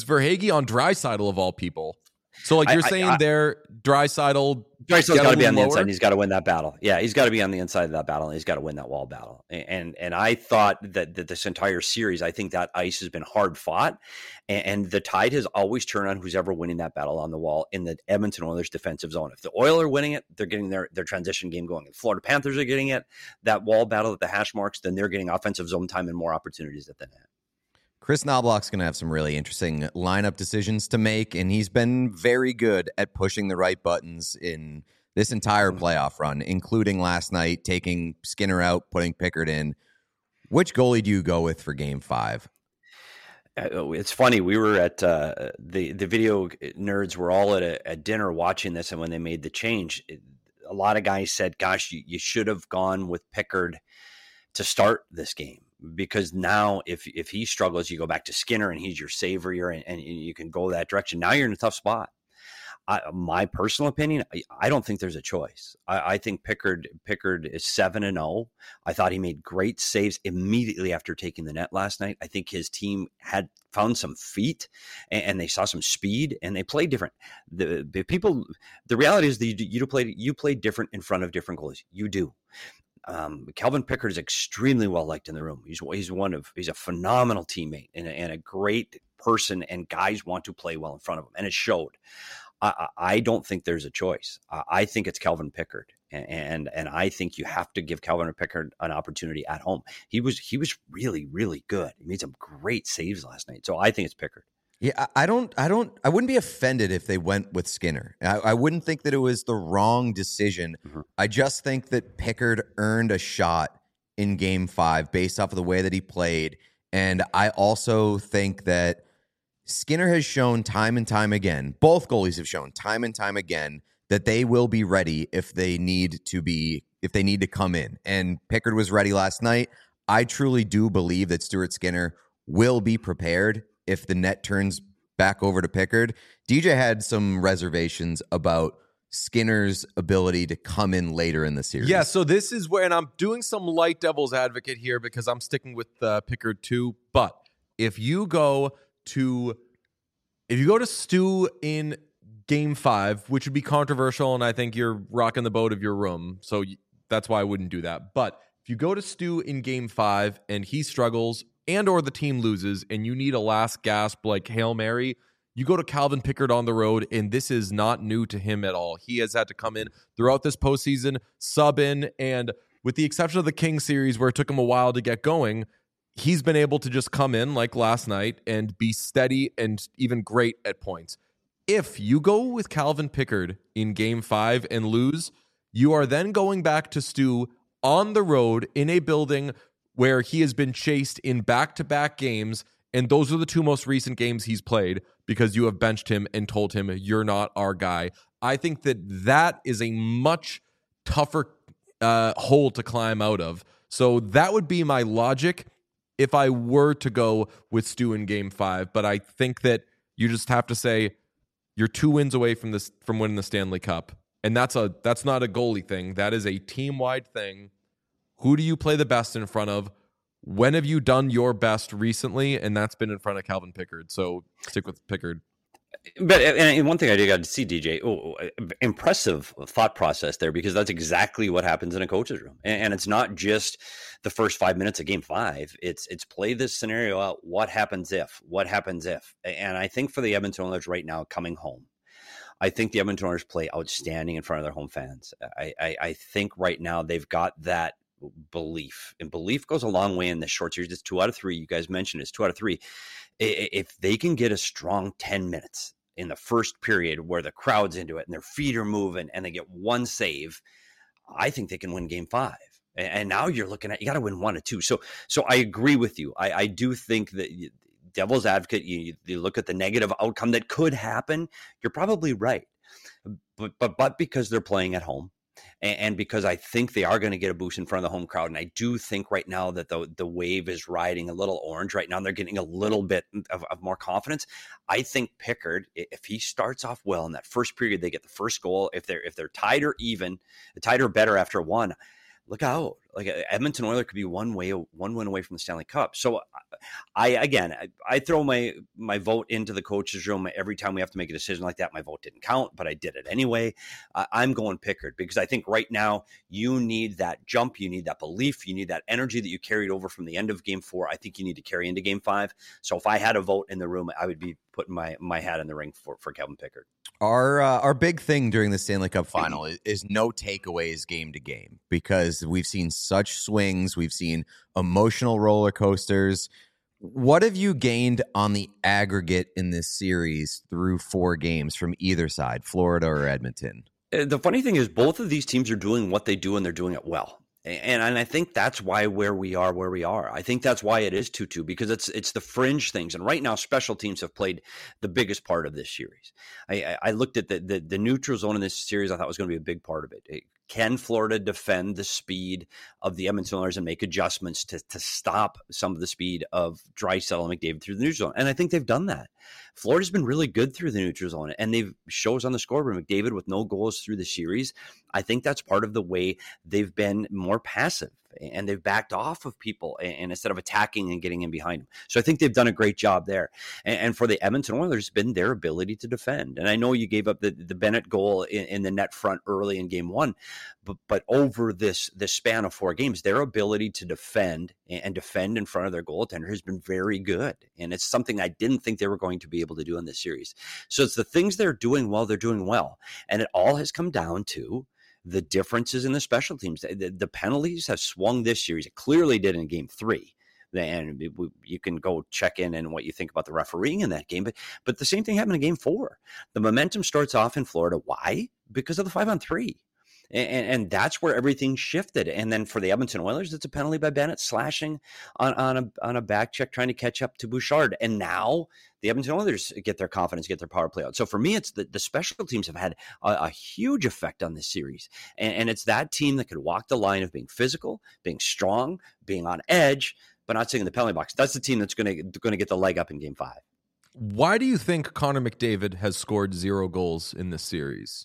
Speaker 1: Draisaitl of all people. So like you're saying there, Draisaitl's
Speaker 6: got to be on the inside and he's got to win that battle. Yeah, he's got to be on the inside of that battle and he's got to win that wall battle. And I thought that this entire series, I think that ice has been hard fought and the tide has always turned on who's ever winning that battle on the wall in the Edmonton Oilers defensive zone. If the Oilers are winning it, they're getting their transition game going. If Florida Panthers are getting it, that wall battle at the hash marks, then they're getting offensive zone time and more opportunities at the net.
Speaker 3: Chris Knoblauch's going to have some really interesting lineup decisions to make, and he's been very good at pushing the right buttons in this entire playoff run, including last night, taking Skinner out, putting Pickard in. Which goalie do you go with for Game 5?
Speaker 6: It's funny. We were at the video nerds were all at a dinner watching this, and when they made the change, a lot of guys said, gosh, you should have gone with Pickard to start this game. Because now if he struggles, you go back to Skinner and he's your savior and you can go that direction. Now you're in a tough spot. My personal opinion, I don't think there's a choice. I think Pickard is 7-0. I thought he made great saves immediately after taking the net last night. I think his team had found some feet and they saw some speed and they played different. The reality is that you play different in front of different goalies. You do. Calvin Pickard is extremely well liked in the room. He's a phenomenal teammate and a great person, and guys want to play well in front of him, and it showed. I don't think there's a choice. I think it's Calvin Pickard, and I think you have to give Calvin Pickard an opportunity at home. He was really, really good. He made some great saves last night, so I think it's Pickard.
Speaker 3: Yeah, I wouldn't be offended if they went with Skinner. I wouldn't think that it was the wrong decision. Mm-hmm. I just think that Pickard earned a shot in Game 5 based off of the way that he played. And I also think that Skinner has shown time and time again, both goalies have shown time and time again that they will be ready if they need to come in. And Pickard was ready last night. I truly do believe that Stuart Skinner will be prepared if the net turns back over to Pickard. DJ had some reservations about Skinner's ability to come in later in the series.
Speaker 1: Yeah, so this is where, and I'm doing some light devil's advocate here because I'm sticking with Pickard too. But if you go to Stu in Game 5, which would be controversial, and I think you're rocking the boat of your room, so that's why I wouldn't do that. But if you go to Stu in Game 5 and he struggles and or the team loses and you need a last gasp like Hail Mary, you go to Calvin Pickard on the road, and this is not new to him at all. He has had to come in throughout this postseason, sub in, and with the exception of the King series where it took him a while to get going, he's been able to just come in like last night and be steady and even great at points. If you go with Calvin Pickard in Game 5 and lose, you are then going back to Stu on the road in a building where he has been chased in back-to-back games, and those are the two most recent games he's played because you have benched him and told him you're not our guy. I think that is a much tougher hole to climb out of. So that would be my logic if I were to go with Stu in Game 5. But I think that you just have to say you're 2 wins away from winning the Stanley Cup. And that's not a goalie thing. That is a team-wide thing. Who do you play the best in front of? When have you done your best recently? And that's been in front of Calvin Pickard. So stick with Pickard.
Speaker 6: But and one thing I did got to see, DJ, impressive thought process there, because that's exactly what happens in a coach's room. And it's not just the first 5 minutes of Game 5. It's play this scenario out. What happens if? And I think for the Edmonton Oilers right now coming home, I think the Edmonton Oilers play outstanding in front of their home fans. I think right now they've got that belief, and belief goes a long way in this short series. It's 2 out of 3. You guys mentioned it's 2 out of 3. If they can get a strong 10 minutes in the first period where the crowd's into it and their feet are moving and they get one save, I think they can win Game 5. And now you're looking at, you got to win 1 or 2. So I agree with you. I do think that devil's advocate, you look at the negative outcome that could happen. You're probably right. But because they're playing at home, and because I think they are going to get a boost in front of the home crowd. And I do think right now that the wave is riding a little orange right now. They're getting a little bit of more confidence. I think Pickard, if he starts off well in that first period, they get the first goal. If they're tied or better after 1, look out. Like Edmonton Oilers could be one win away from the Stanley Cup. So I throw my vote into the coach's room every time we have to make a decision like that. My vote didn't count, but I did it anyway. I'm going Pickard because I think right now you need that jump. You need that belief. You need that energy that you carried over from the end of Game 4. I think you need to carry into Game 5. So if I had a vote in the room, I would be putting my hat in the ring for Calvin Pickard.
Speaker 3: Our big thing during the Stanley Cup final is no takeaways game to game, because we've seen such swings. We've seen emotional roller coasters. What have you gained on the aggregate in this series through 4 games from either side, Florida or Edmonton?
Speaker 6: The funny thing is both of these teams are doing what they do, and they're doing it well. And I think that's why where we are. I think that's why it is 2-2, because it's the fringe things. And right now, special teams have played the biggest part of this series. I looked at the neutral zone in this series. I thought was going to be a big part of it. Can Florida defend the speed of the Edmonton Oilers and make adjustments to stop some of the speed of Draisaitl and McDavid through the neutral zone? And I think they've done that. Florida's been really good through the neutral zone, and they've shows on the scoreboard. McDavid with no goals through the series. I think that's part of the way they've been more passive, and they've backed off of people and instead of attacking and getting in behind them. So I think they've done a great job there. And for the Edmonton Oilers, it's been their ability to defend. And I know you gave up the Bennett goal in the net front early in Game 1, but over this span of 4 games, their ability to defend and defend in front of their goaltender has been very good. And it's something I didn't think they were going to be able to do in this series. So it's the things they're doing well. And it all has come down to the differences in the special teams. The penalties have swung this series. It clearly did in Game 3. And you can go check in and what you think about the refereeing in that game. But the same thing happened in Game 4. The momentum starts off in Florida. Why? Because of the 5-on-3. And that's where everything shifted. And then for the Edmonton Oilers, it's a penalty by Bennett slashing on a back check, trying to catch up to Bouchard. And now the Edmonton Oilers get their confidence, get their power play out. So for me, it's the special teams have had a huge effect on this series. And it's that team that could walk the line of being physical, being strong, being on edge, but not sitting in the penalty box. That's the team that's going to get the leg up in Game 5.
Speaker 1: Why do you think Connor McDavid has scored 0 goals in this series?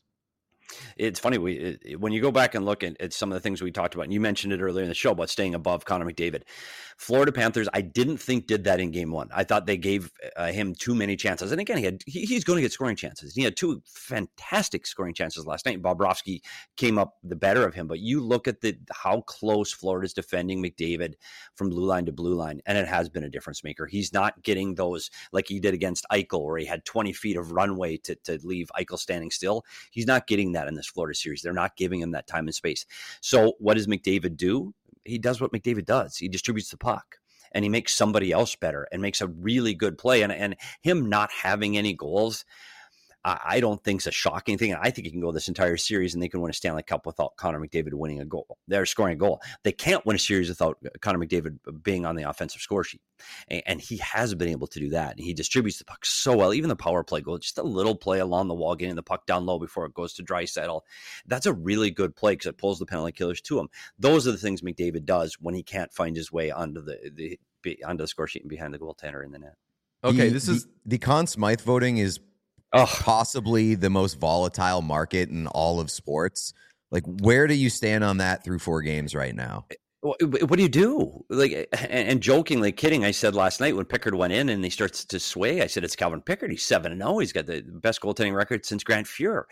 Speaker 6: It's funny, when you go back and look at some of the things we talked about, and you mentioned it earlier in the show about staying above Connor McDavid. Florida Panthers, I didn't think did that in Game 1. I thought they gave him too many chances. And again, he's going to get scoring chances. He had 2 fantastic scoring chances last night. Bobrovsky came up the better of him. But you look at how close Florida's defending McDavid from blue line to blue line, and it has been a difference maker. He's not getting those like he did against Eichel, where he had 20 feet of runway to leave Eichel standing still. He's not getting that in this Florida series. They're not giving him that time and space. So what does McDavid do? He does what McDavid does. He distributes the puck, and he makes somebody else better and makes a really good play. And him not having any goals, I don't think it's a shocking thing. And I think you can go this entire series and they can win a Stanley Cup without Connor McDavid winning a goal. They're scoring a goal. They can't win a series without Connor McDavid being on the offensive score sheet. And he has been able to do that. And he distributes the puck so well. Even the power play goal, just a little play along the wall, getting the puck down low before it goes to Draisaitl. That's a really good play because it pulls the penalty killers to him. Those are the things McDavid does when he can't find his way onto the score sheet and behind the goaltender in the net.
Speaker 1: Okay,
Speaker 3: the Conn Smythe voting is possibly the most volatile market in all of sports. Like, where do you stand on that through 4 games right now?
Speaker 6: What do you do? Like, and jokingly, kidding, I said last night when Pickard went in and he starts to sway, I said it's Calvin Pickard. He's 7-0. He's got the best goaltending record since Grant Fuhr.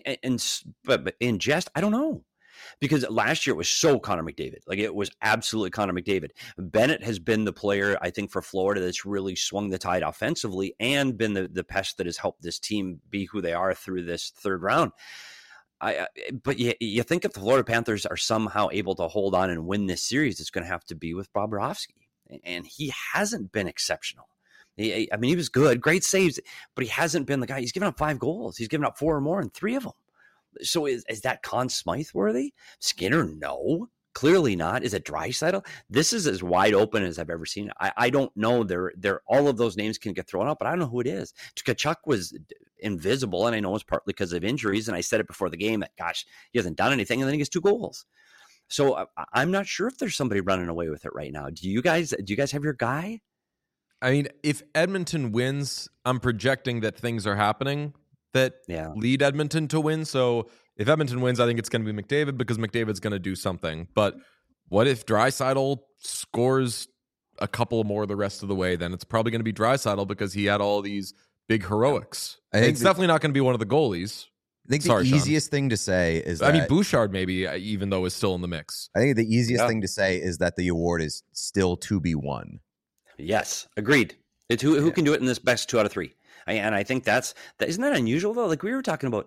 Speaker 6: But in jest, I don't know. Because last year it was so Connor McDavid. Like, it was absolutely Connor McDavid. Bennett has been the player, I think, for Florida that's really swung the tide offensively and been the pest that has helped this team be who they are through this third round. But you think if the Florida Panthers are somehow able to hold on and win this series, it's going to have to be with Bobrovsky. And he hasn't been exceptional. He was good, great saves, but he hasn't been the guy. He's given up 5 goals. He's given up 4 or more in 3 of them. So is that Conn Smythe worthy? Skinner? No, clearly not. Is it Draisaitl? This is as wide open as I've ever seen. I don't know. They're all of those names can get thrown out, but I don't know who it is. Tkachuk was invisible, and I know it's partly because of injuries. And I said it before the game that, gosh, he hasn't done anything, and then he gets 2 goals. So I'm not sure if there's somebody running away with it right now. Do you guys have your guy?
Speaker 1: I mean, if Edmonton wins, I'm projecting that things are happening that lead Edmonton to win. So if Edmonton wins, I think it's going to be McDavid because McDavid's going to do something. But what if Draisaitl scores a couple more the rest of the way? Then it's probably going to be Draisaitl because he had all these big heroics. It's definitely not going to be one of the goalies.
Speaker 3: I think the easiest thing to say is that...
Speaker 1: I mean, Bouchard maybe, even though is still in the mix.
Speaker 3: I think the easiest thing to say is that the award is still to be won.
Speaker 6: Yes, agreed. It's who can do it in this best 2 out of 3. And I think isn't that unusual though? Like we were talking about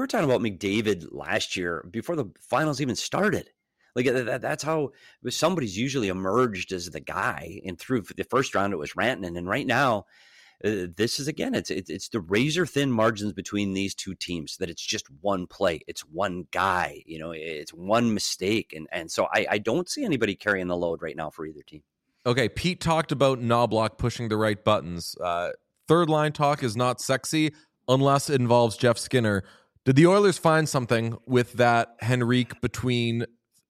Speaker 6: McDavid last year before the finals even started. Like that's how somebody's usually emerged as the guy. And through the first round, it was Rantanen. And right now, this is again, it's the razor thin margins between these 2 teams. That it's just one play, it's one guy. It's one mistake, and so I don't see anybody carrying the load right now for either team.
Speaker 1: Okay, Pete talked about Knoblauch pushing the right buttons. Third line talk is not sexy unless it involves Jeff Skinner. Did the Oilers find something with that Henrique between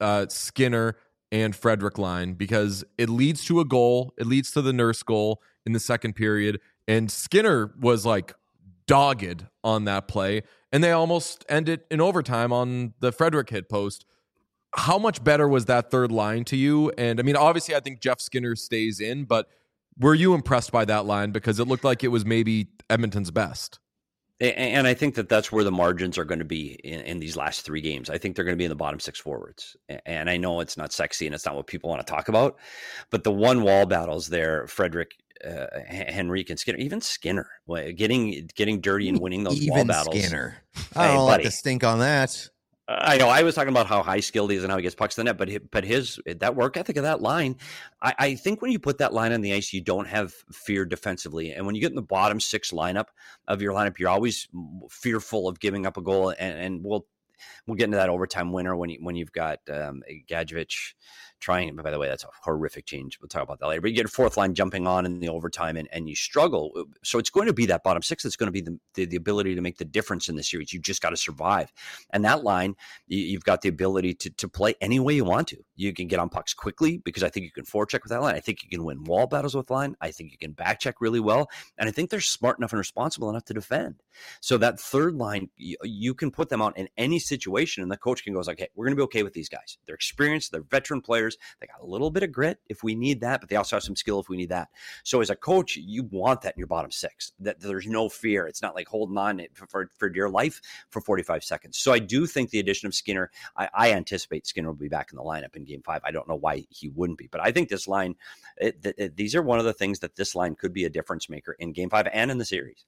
Speaker 1: Skinner and Frederic line? Because it leads to a goal. It leads to the Nurse goal in the second period. And Skinner was like dogged on that play. And they almost ended in overtime on the Frederic hit post. How much better was that third line to you? And I mean, obviously, I think Jeff Skinner stays in, but were you impressed by that line? Because it looked like it was maybe Edmonton's best.
Speaker 6: And I think that's where the margins are going to be in these last 3 games. I think they're going to be in the bottom 6 forwards. And I know it's not sexy and it's not what people want to talk about, but the one wall battles there, Frederic, Henrique, and Skinner, even Skinner, getting dirty and winning those wall battles.
Speaker 3: Skinner. I don't like to stink on that.
Speaker 6: I know. I was talking about how high skilled he is and how he gets pucks to the net, but his that work ethic of that line, I think when you put that line on the ice, you don't have fear defensively, and when you get in the bottom 6 lineup of your lineup, you're always fearful of giving up a goal. And we'll get into that overtime winner when you've got Gadjevich trying. By the way, that's a horrific change. We'll talk about that later. But you get a 4th line jumping on in the overtime, and you struggle. So it's going to be that bottom 6 that's going to be the ability to make the difference in the series. You just got to survive. And that line, you've got the ability to play any way you want to. You can get on pucks quickly because I think you can forecheck with that line. I think you can win wall battles with line. I think you can backcheck really well. And I think they're smart enough and responsible enough to defend. So that third line, you can put them out in any situation, and the coach can go, okay, we're going to be okay with these guys. They're experienced. They're veteran players. They got a little bit of grit if we need that, but they also have some skill if we need that. So as a coach, you want that in your bottom 6, that there's no fear. It's not like holding on for dear life for 45 seconds. So I do think the addition of Skinner, I anticipate Skinner will be back in the lineup in Game 5. I don't know why he wouldn't be, but I think this line, these are one of the things that this line could be a difference maker in Game 5 and in the series.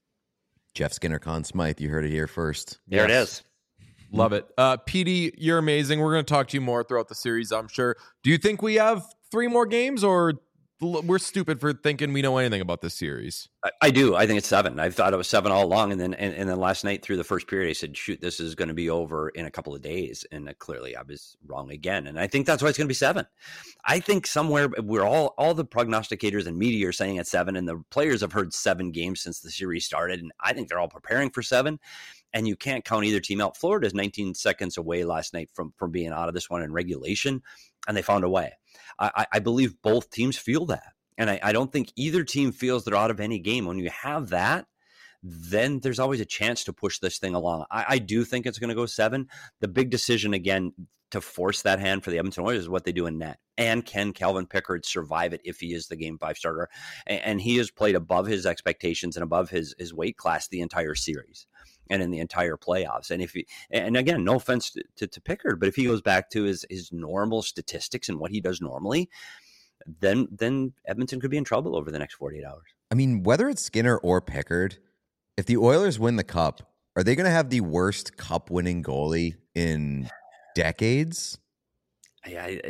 Speaker 3: Jeff Skinner, Conn Smythe, you heard it here first.
Speaker 6: There it is.
Speaker 1: Love it. PD, you're amazing. We're going to talk to you more throughout the series, I'm sure. Do you think we have 3 more games, or we're stupid for thinking we know anything about this series.
Speaker 6: I do. I think it's 7. I thought it was 7 all along, and then last night through the first period, I said, "Shoot, this is going to be over in a couple of days." And clearly, I was wrong again. And I think that's why it's going to be 7. I think somewhere we're all the prognosticators and media are saying it's 7, and the players have heard 7 games since the series started, and I think they're all preparing for 7. And you can't count either team out. Florida's 19 seconds away last night from being out of this one in regulation, and they found a way. I believe both teams feel that. And I don't think either team feels they're out of any game. When you have that, then there's always a chance to push this thing along. I do think it's going to go 7. The big decision, again, to force that hand for the Edmonton Oilers is what they do in net. And can Calvin Pickard survive it if he is the Game 5 starter? And he has played above his expectations and above his weight class the entire series and in the entire playoffs. And again, no offense to Pickard, but if he goes back to his normal statistics and what he does normally, then Edmonton could be in trouble over the next 48 hours.
Speaker 3: I mean, whether it's Skinner or Pickard, if the Oilers win the cup, are they going to have the worst cup-winning goalie in decades?
Speaker 6: I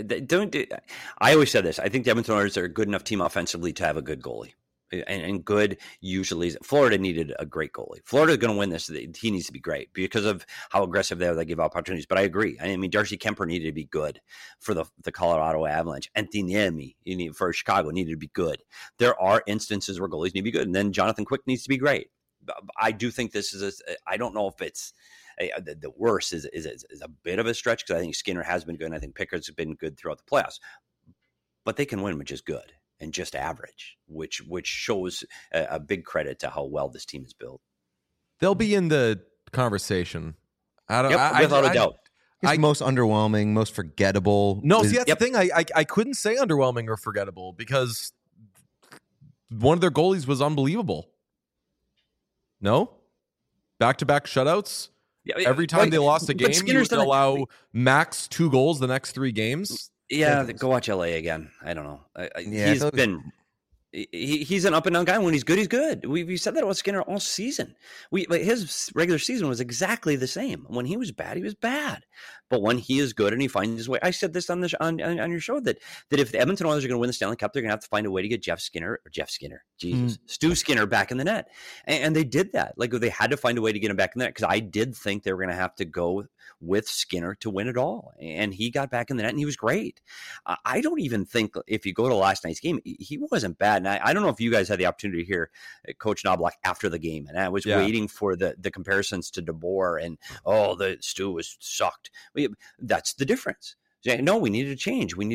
Speaker 6: always said this. I think the Edmonton Oilers are a good enough team offensively to have a good goalie. And good usually Florida needed a great goalie. Florida's going to win this. He needs to be great because of how aggressive they are. They give opportunities. But I agree. I mean, Darcy Kemper needed to be good for the Colorado Avalanche. Antiniemi for Chicago needed to be good. There are instances where goalies need to be good. And then Jonathan Quick needs to be great. I do think this is I don't know if it's the worst is a bit of a stretch because I think Skinner has been good. And I think Pickard's been good throughout the playoffs. But they can win with just good and just average, which shows a big credit to how well this team is built.
Speaker 1: They'll be in the conversation.
Speaker 6: Without a doubt.
Speaker 3: He's most underwhelming, most forgettable.
Speaker 1: No, see, that's the thing. I couldn't say underwhelming or forgettable because one of their goalies was unbelievable. No? Back-to-back shutouts? Yeah, every time they lost a game, you would allow max 2 goals the next 3 games?
Speaker 6: Yeah, go watch LA again. I don't know. He's an up and down guy. When he's good, he's good. We said that about Skinner all season. His regular season was exactly the same. When he was bad, he was bad. But when he is good and he finds his way, I said this on your show that if the Edmonton Oilers are going to win the Stanley Cup, they're going to have to find a way to get Stu Skinner back in the net, and they did that. Like they had to find a way to get him back in the net because I did think they were going to have to go with Skinner to win it all, and he got back in the net and he was great. I don't even think if you go to last night's game, he wasn't bad. And I don't know if you guys had the opportunity to hear Coach Knoblauch after the game, and I was waiting for the comparisons to DeBoer and the Stu was sucked. That's the difference. No, we needed a change. We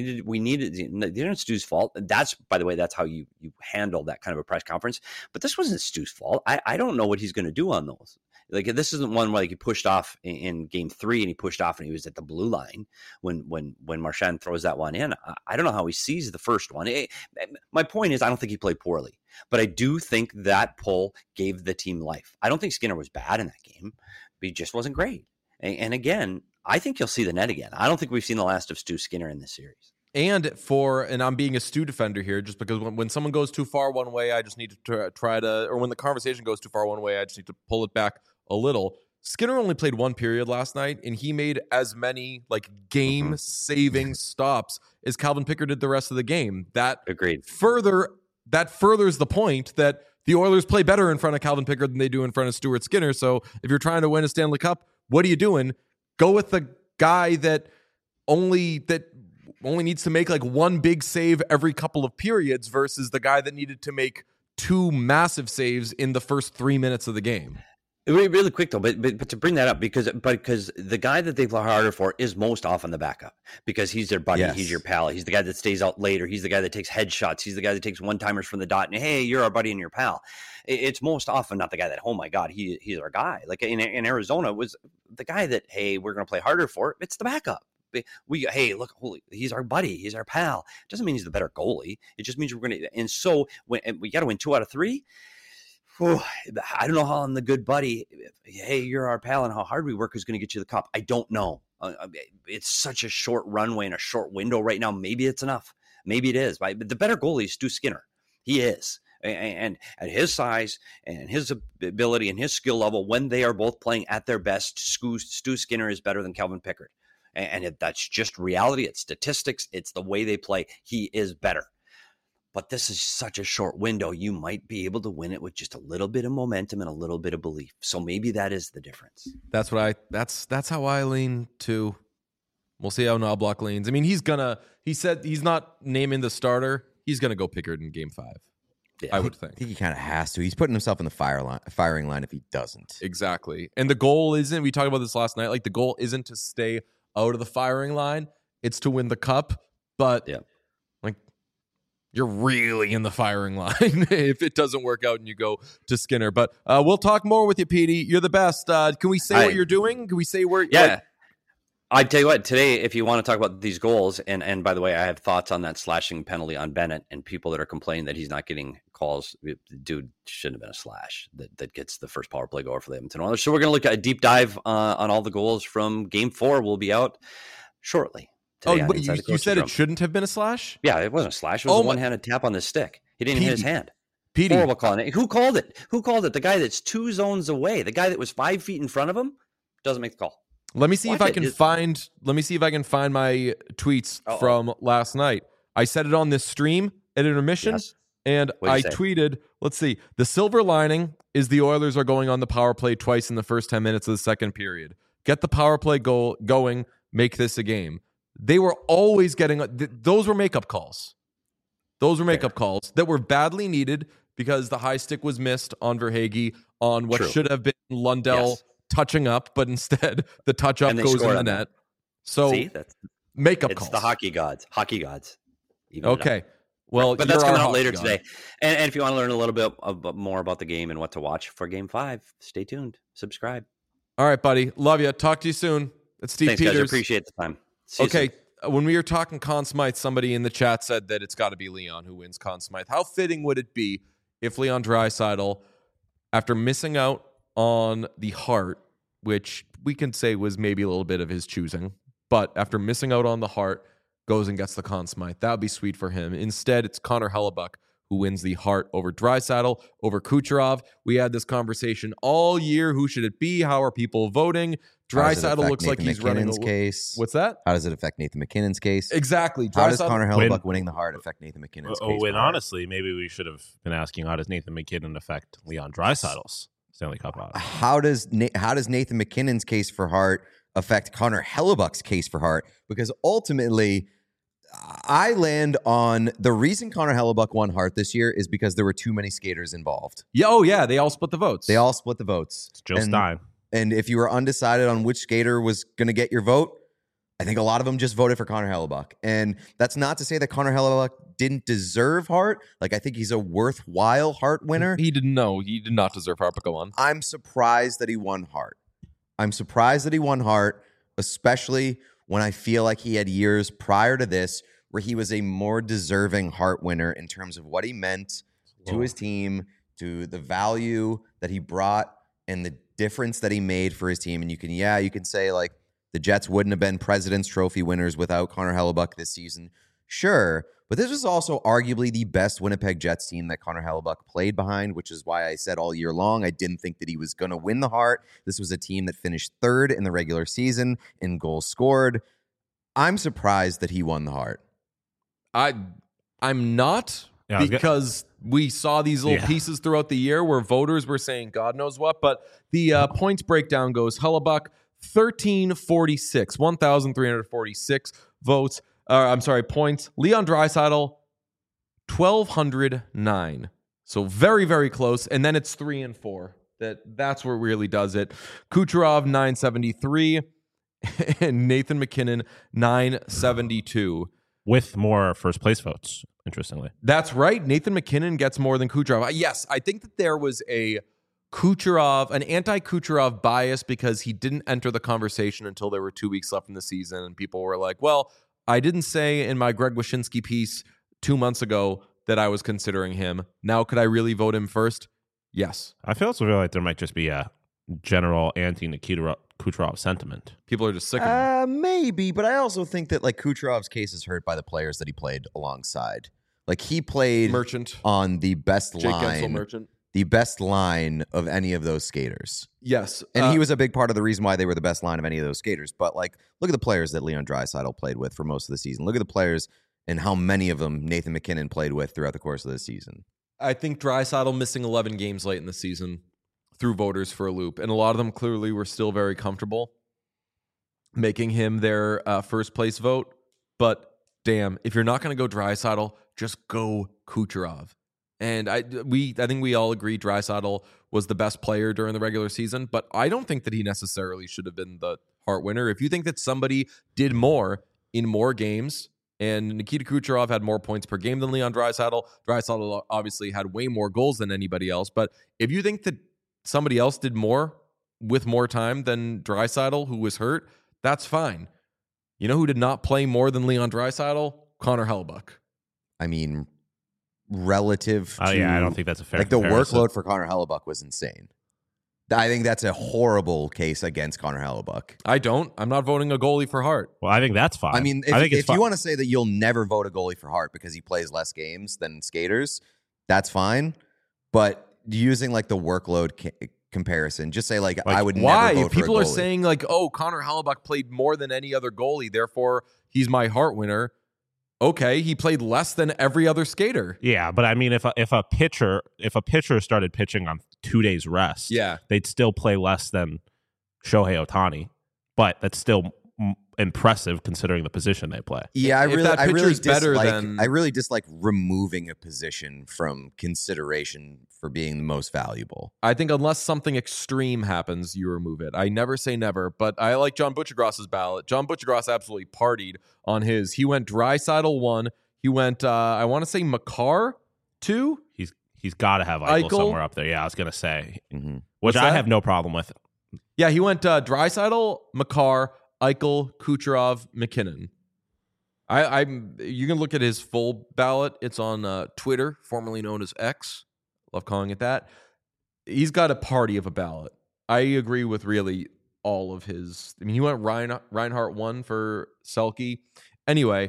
Speaker 6: needed Stu's fault. That's, by the way, that's how you handle that kind of a press conference. But this wasn't Stu's fault. I don't know what he's going to do on those. Like this isn't one where he pushed off in game 3 and he pushed off and he was at the blue line when Marchand throws that one in. I don't know how he sees the first one. My point is, I don't think he played poorly, but I do think that pull gave the team life. I don't think Skinner was bad in that game, but he just wasn't great. And again, I think you'll see the net again. I don't think we've seen the last of Stu Skinner in this series.
Speaker 1: And I'm being a Stu defender here, just because when someone goes too far one way, I just need to try to, or when the conversation goes too far one way, I just need to pull it back a little. Skinner only played 1 period last night, and he made as many game-saving stops as Calvin Pickard did the rest of the game.
Speaker 6: Agreed.
Speaker 1: That furthers the point that the Oilers play better in front of Calvin Pickard than they do in front of Stuart Skinner. So if you're trying to win a Stanley Cup, what are you doing? Go with the guy that only needs to make like 1 big save every couple of periods versus the guy that needed to make 2 massive saves in the first 3 minutes of the game.
Speaker 6: Really quick though, but to bring that up because the guy that they play harder for is most often the backup because he's their buddy, He's your pal, he's the guy that stays out later, he's the guy that takes headshots, he's the guy that takes 1-timers from the dot, and hey, you're our buddy and your pal. It's most often not the guy that, oh my God, he's our guy. Like in Arizona, it was the guy that, hey, we're going to play harder for. It's the backup. Hey, look, he's our buddy, he's our pal. It doesn't mean he's the better goalie. It just means we're going to. And so when we got to win 2 out of 3. I don't know how I'm the good buddy. Hey, you're our pal, and how hard we work is going to get you the cup. I don't know. It's such a short runway and a short window right now. Maybe it's enough. Maybe it is. But the better goalie is Stu Skinner. He is. And at his size and his ability and his skill level, when they are both playing at their best, Stu Skinner is better than Calvin Pickard. And that's just reality. It's statistics. It's the way they play. He is better. but this is such a short window. You might be able to win it with just a little bit of momentum and a little bit of belief. So maybe that is the difference.
Speaker 1: That's how I lean too. We'll see how Knoblauch leans. I mean, he said he's not naming the starter. He's gonna go Pickard in game 5.
Speaker 6: Yeah.
Speaker 1: I would think.
Speaker 3: I think he kind of has to. He's putting himself in the firing line if he doesn't.
Speaker 1: Exactly. And the goal isn't, we talked about this last night, like the goal isn't to stay out of the firing line. It's to win the cup. But like you're really in the firing line if it doesn't work out and you go to Skinner. But we'll talk more with you, Petey. You're the best. Can we say what you're doing? Can we say where?
Speaker 6: Yeah.
Speaker 1: Like,
Speaker 6: I tell you what, today, if you want to talk about these goals, and by the way, I have thoughts on that slashing penalty on Bennett and people that are complaining that he's not getting calls. The dude shouldn't have been a slash that gets the first power play goal for the Edmonton Oilers. So we're going to look at a deep dive on all the goals from Game 4. We'll be out shortly.
Speaker 1: But you said it shouldn't have been a slash?
Speaker 6: Yeah, it wasn't a slash. It was a one-handed tap on the stick. He didn't even hit his hand.
Speaker 1: Petey.
Speaker 6: Horrible calling. Who called it? Who called it? The guy that's 2 zones away. The guy that was 5 feet in front of him doesn't make the call.
Speaker 1: Let me see if I can find my tweets from last night. I said it on this stream at intermission, and I tweeted, let's see, the silver lining is the Oilers are going on the power play twice in the first 10 minutes of the second period. Get the power play goal going, make this a game. They were always getting, those were makeup calls. Those were makeup calls that were badly needed because the high stick was missed on Verhaeghe on what should have been Lundell touching up, but instead the touch up goes in the net. So makeup calls.
Speaker 6: It's the hockey gods.
Speaker 1: Okay. Well,
Speaker 6: but that's coming out later today. And if you want to learn a little bit more about the game and what to watch for Game 5, stay tuned. Subscribe.
Speaker 1: All right, buddy. Love you. Talk to you soon. It's Steve Peters.
Speaker 6: Guys. Appreciate the time.
Speaker 1: Okay. When we were talking Conn Smythe, somebody in the chat said that it's got to be Leon who wins Conn Smythe. How fitting would it be if Leon Draisaitl, after missing out on the Hart, which we can say was maybe a little bit of his choosing, but after missing out on the Hart, goes and gets the Conn Smythe? That would be sweet for him. Instead, it's Connor Hellebuyck who wins the Hart over Draisaitl, over Kucherov. We had this conversation all year. Who should it be? How are people voting? Draisaitl looks like he's running
Speaker 3: McKinnon's case.
Speaker 1: What's that?
Speaker 3: How does it affect Nathan McKinnon's case?
Speaker 1: Exactly.
Speaker 3: How does Connor Hellebuyck winning the Hart affect Nathan McKinnon's case?
Speaker 2: And honestly, maybe we should have been asking, how does Nathan McKinnon affect Leon Draisaitl's Stanley Cup odds?
Speaker 3: How does Nathan McKinnon's case for Hart affect Connor Hellebuyck's case for Hart? Because ultimately, I land on the reason Connor Hellebuyck won Hart this year is because there were too many skaters involved.
Speaker 1: Yeah, they all split the votes.
Speaker 3: It's
Speaker 2: Joe Stein.
Speaker 3: And if you were undecided on which skater was going to get your vote, I think a lot of them just voted for Connor Hellebuyck. And that's not to say that Connor Hellebuyck didn't deserve Hart. Like, I think he's a worthwhile Hart winner.
Speaker 1: He did not deserve Hart, but go on.
Speaker 3: I'm surprised that he won Hart. Especially when I feel like he had years prior to this where he was a more deserving Hart winner in terms of what he meant to his team, to the value that he brought, and the difference that he made for his team. And you can say, like, the Jets wouldn't have been President's Trophy winners without Connor Hellebuyck this season. Sure. But this was also arguably the best Winnipeg Jets team that Connor Hellebuyck played behind, which is why I said all year long I didn't think that he was going to win the Hart. This was a team that finished third in the regular season in goals scored. I'm surprised that he won the Hart.
Speaker 1: I'm not, because we saw these little pieces throughout the year where voters were saying God knows what, but the points breakdown goes Hellebuyck 1,346 votes. Points. Leon Draisaitl 1,209. So very, very close. And then it's 3 and 4. That's where it really does it. Kucherov 973 and Nathan McKinnon 972.
Speaker 2: With more first place votes, interestingly.
Speaker 1: That's right. Nathan McKinnon gets more than Kucherov. Yes, I think that there was an anti-Kucherov bias because he didn't enter the conversation until there were 2 weeks left in the season. And people were like, well, I didn't say in my Greg Wyshynski piece 2 months ago that I was considering him. Now, could I really vote him first? Yes.
Speaker 2: I feel like there might just be a general anti-Nikita Kucherov sentiment.
Speaker 1: People are just sick of him.
Speaker 3: Maybe, but I also think that, like, Kucherov's case is hurt by the players that he played alongside. Like, he played
Speaker 1: Merchant
Speaker 3: on the best
Speaker 1: Jake
Speaker 3: line.
Speaker 1: Gensel, Merchant.
Speaker 3: The best line of any of those skaters.
Speaker 1: Yes.
Speaker 3: And he was a big part of the reason why they were the best line of any of those skaters. But, like, look at the players that Leon Draisaitl played with for most of the season. Look at the players and how many of them Nathan McKinnon played with throughout the course of the season.
Speaker 1: I think Draisaitl missing 11 games late in the season threw voters for a loop, and a lot of them clearly were still very comfortable making him their first place vote. But damn, if you're not going to go Draisaitl, just go Kucherov. And I think we all agree Draisaitl was the best player during the regular season, but I don't think that he necessarily should have been the Hart winner. If you think that somebody did more in more games, and Nikita Kucherov had more points per game than Leon Draisaitl, Draisaitl obviously had way more goals than anybody else. But if you think that somebody else did more with more time than Draisaitl, who was hurt, that's fine. You know who did not play more than Leon Draisaitl? Connor Hellebuyck.
Speaker 3: I mean, relative to...
Speaker 2: I don't think that's a fair
Speaker 3: Like, the
Speaker 2: comparison.
Speaker 3: workload for Connor Hellebuyck was insane. I think that's a horrible case against Connor Hellebuyck.
Speaker 1: I'm not voting a goalie for Hart.
Speaker 2: Well, I think that's fine.
Speaker 3: I mean,
Speaker 2: I think it's
Speaker 3: if
Speaker 2: fine.
Speaker 3: you want to say that you'll never vote a goalie for Hart because he plays less games than skaters, that's fine. But using like the workload comparison, just say like I would
Speaker 1: why?
Speaker 3: never vote
Speaker 1: If people
Speaker 3: for a
Speaker 1: are
Speaker 3: goalie.
Speaker 1: saying like, oh, Connor Hellebuyck played more than any other goalie, therefore he's my Hart winner. Okay, he played less than every other skater.
Speaker 2: Yeah, but I mean, if a pitcher started pitching on 2 days rest,
Speaker 1: Yeah.
Speaker 2: they'd still play less than Shohei Ohtani, but that's still impressive considering the position they play.
Speaker 3: Yeah,
Speaker 1: If that pitcher's better
Speaker 3: dislike,
Speaker 1: than-
Speaker 3: I really dislike removing a position from consideration for being the most valuable.
Speaker 1: I think unless something extreme happens, you remove it. I never say never, but I like John Butchergross's ballot. John Butchergross absolutely partied on his. He went Draisaitl 1. He went, I want to say Makar 2.
Speaker 2: He's got to have Eichel
Speaker 1: Eichel?
Speaker 2: somewhere up there. Yeah, I was gonna say,
Speaker 3: Mm-hmm.
Speaker 2: which
Speaker 1: What's
Speaker 2: I
Speaker 1: that?
Speaker 2: have no problem with.
Speaker 1: Yeah, he went Draisaitl, Makar, Eichel, Kucherov, McKinnon. You can look at his full ballot. It's on Twitter, formerly known as X. Love calling it that. He's got a party of a ballot. I agree with really all of his. I mean, he went Reinhart 1 for Selke. Anyway,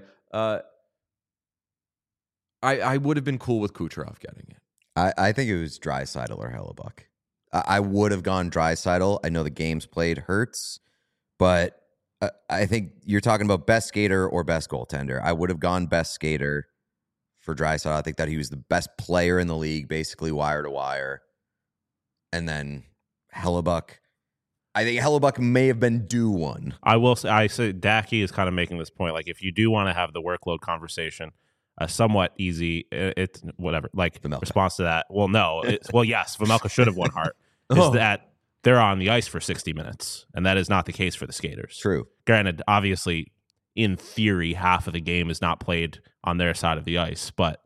Speaker 1: I would have been cool with Kucherov getting it.
Speaker 3: I think it was Draisaitl or Hellebuyck. I would have gone Draisaitl. I know the games played hurts, but I think you're talking about best skater or best goaltender. I would have gone best skater for Draisaitl. I think that he was the best player in the league, basically wire to wire. And then Hellebuyck. I think Hellebuyck may have been due one.
Speaker 2: I say Dacky is kind of making this point. Like, if you do want to have the workload conversation, a somewhat easy, it's whatever. Like,
Speaker 3: Vejmelka.
Speaker 2: response to that. Well, no. Yes, Vejmelka should have won Hart.
Speaker 1: Oh.
Speaker 2: Is that they're on the ice for 60 minutes, and that is not the case for the skaters.
Speaker 3: True.
Speaker 2: Granted, obviously, in theory, half of the game is not played on their side of the ice, but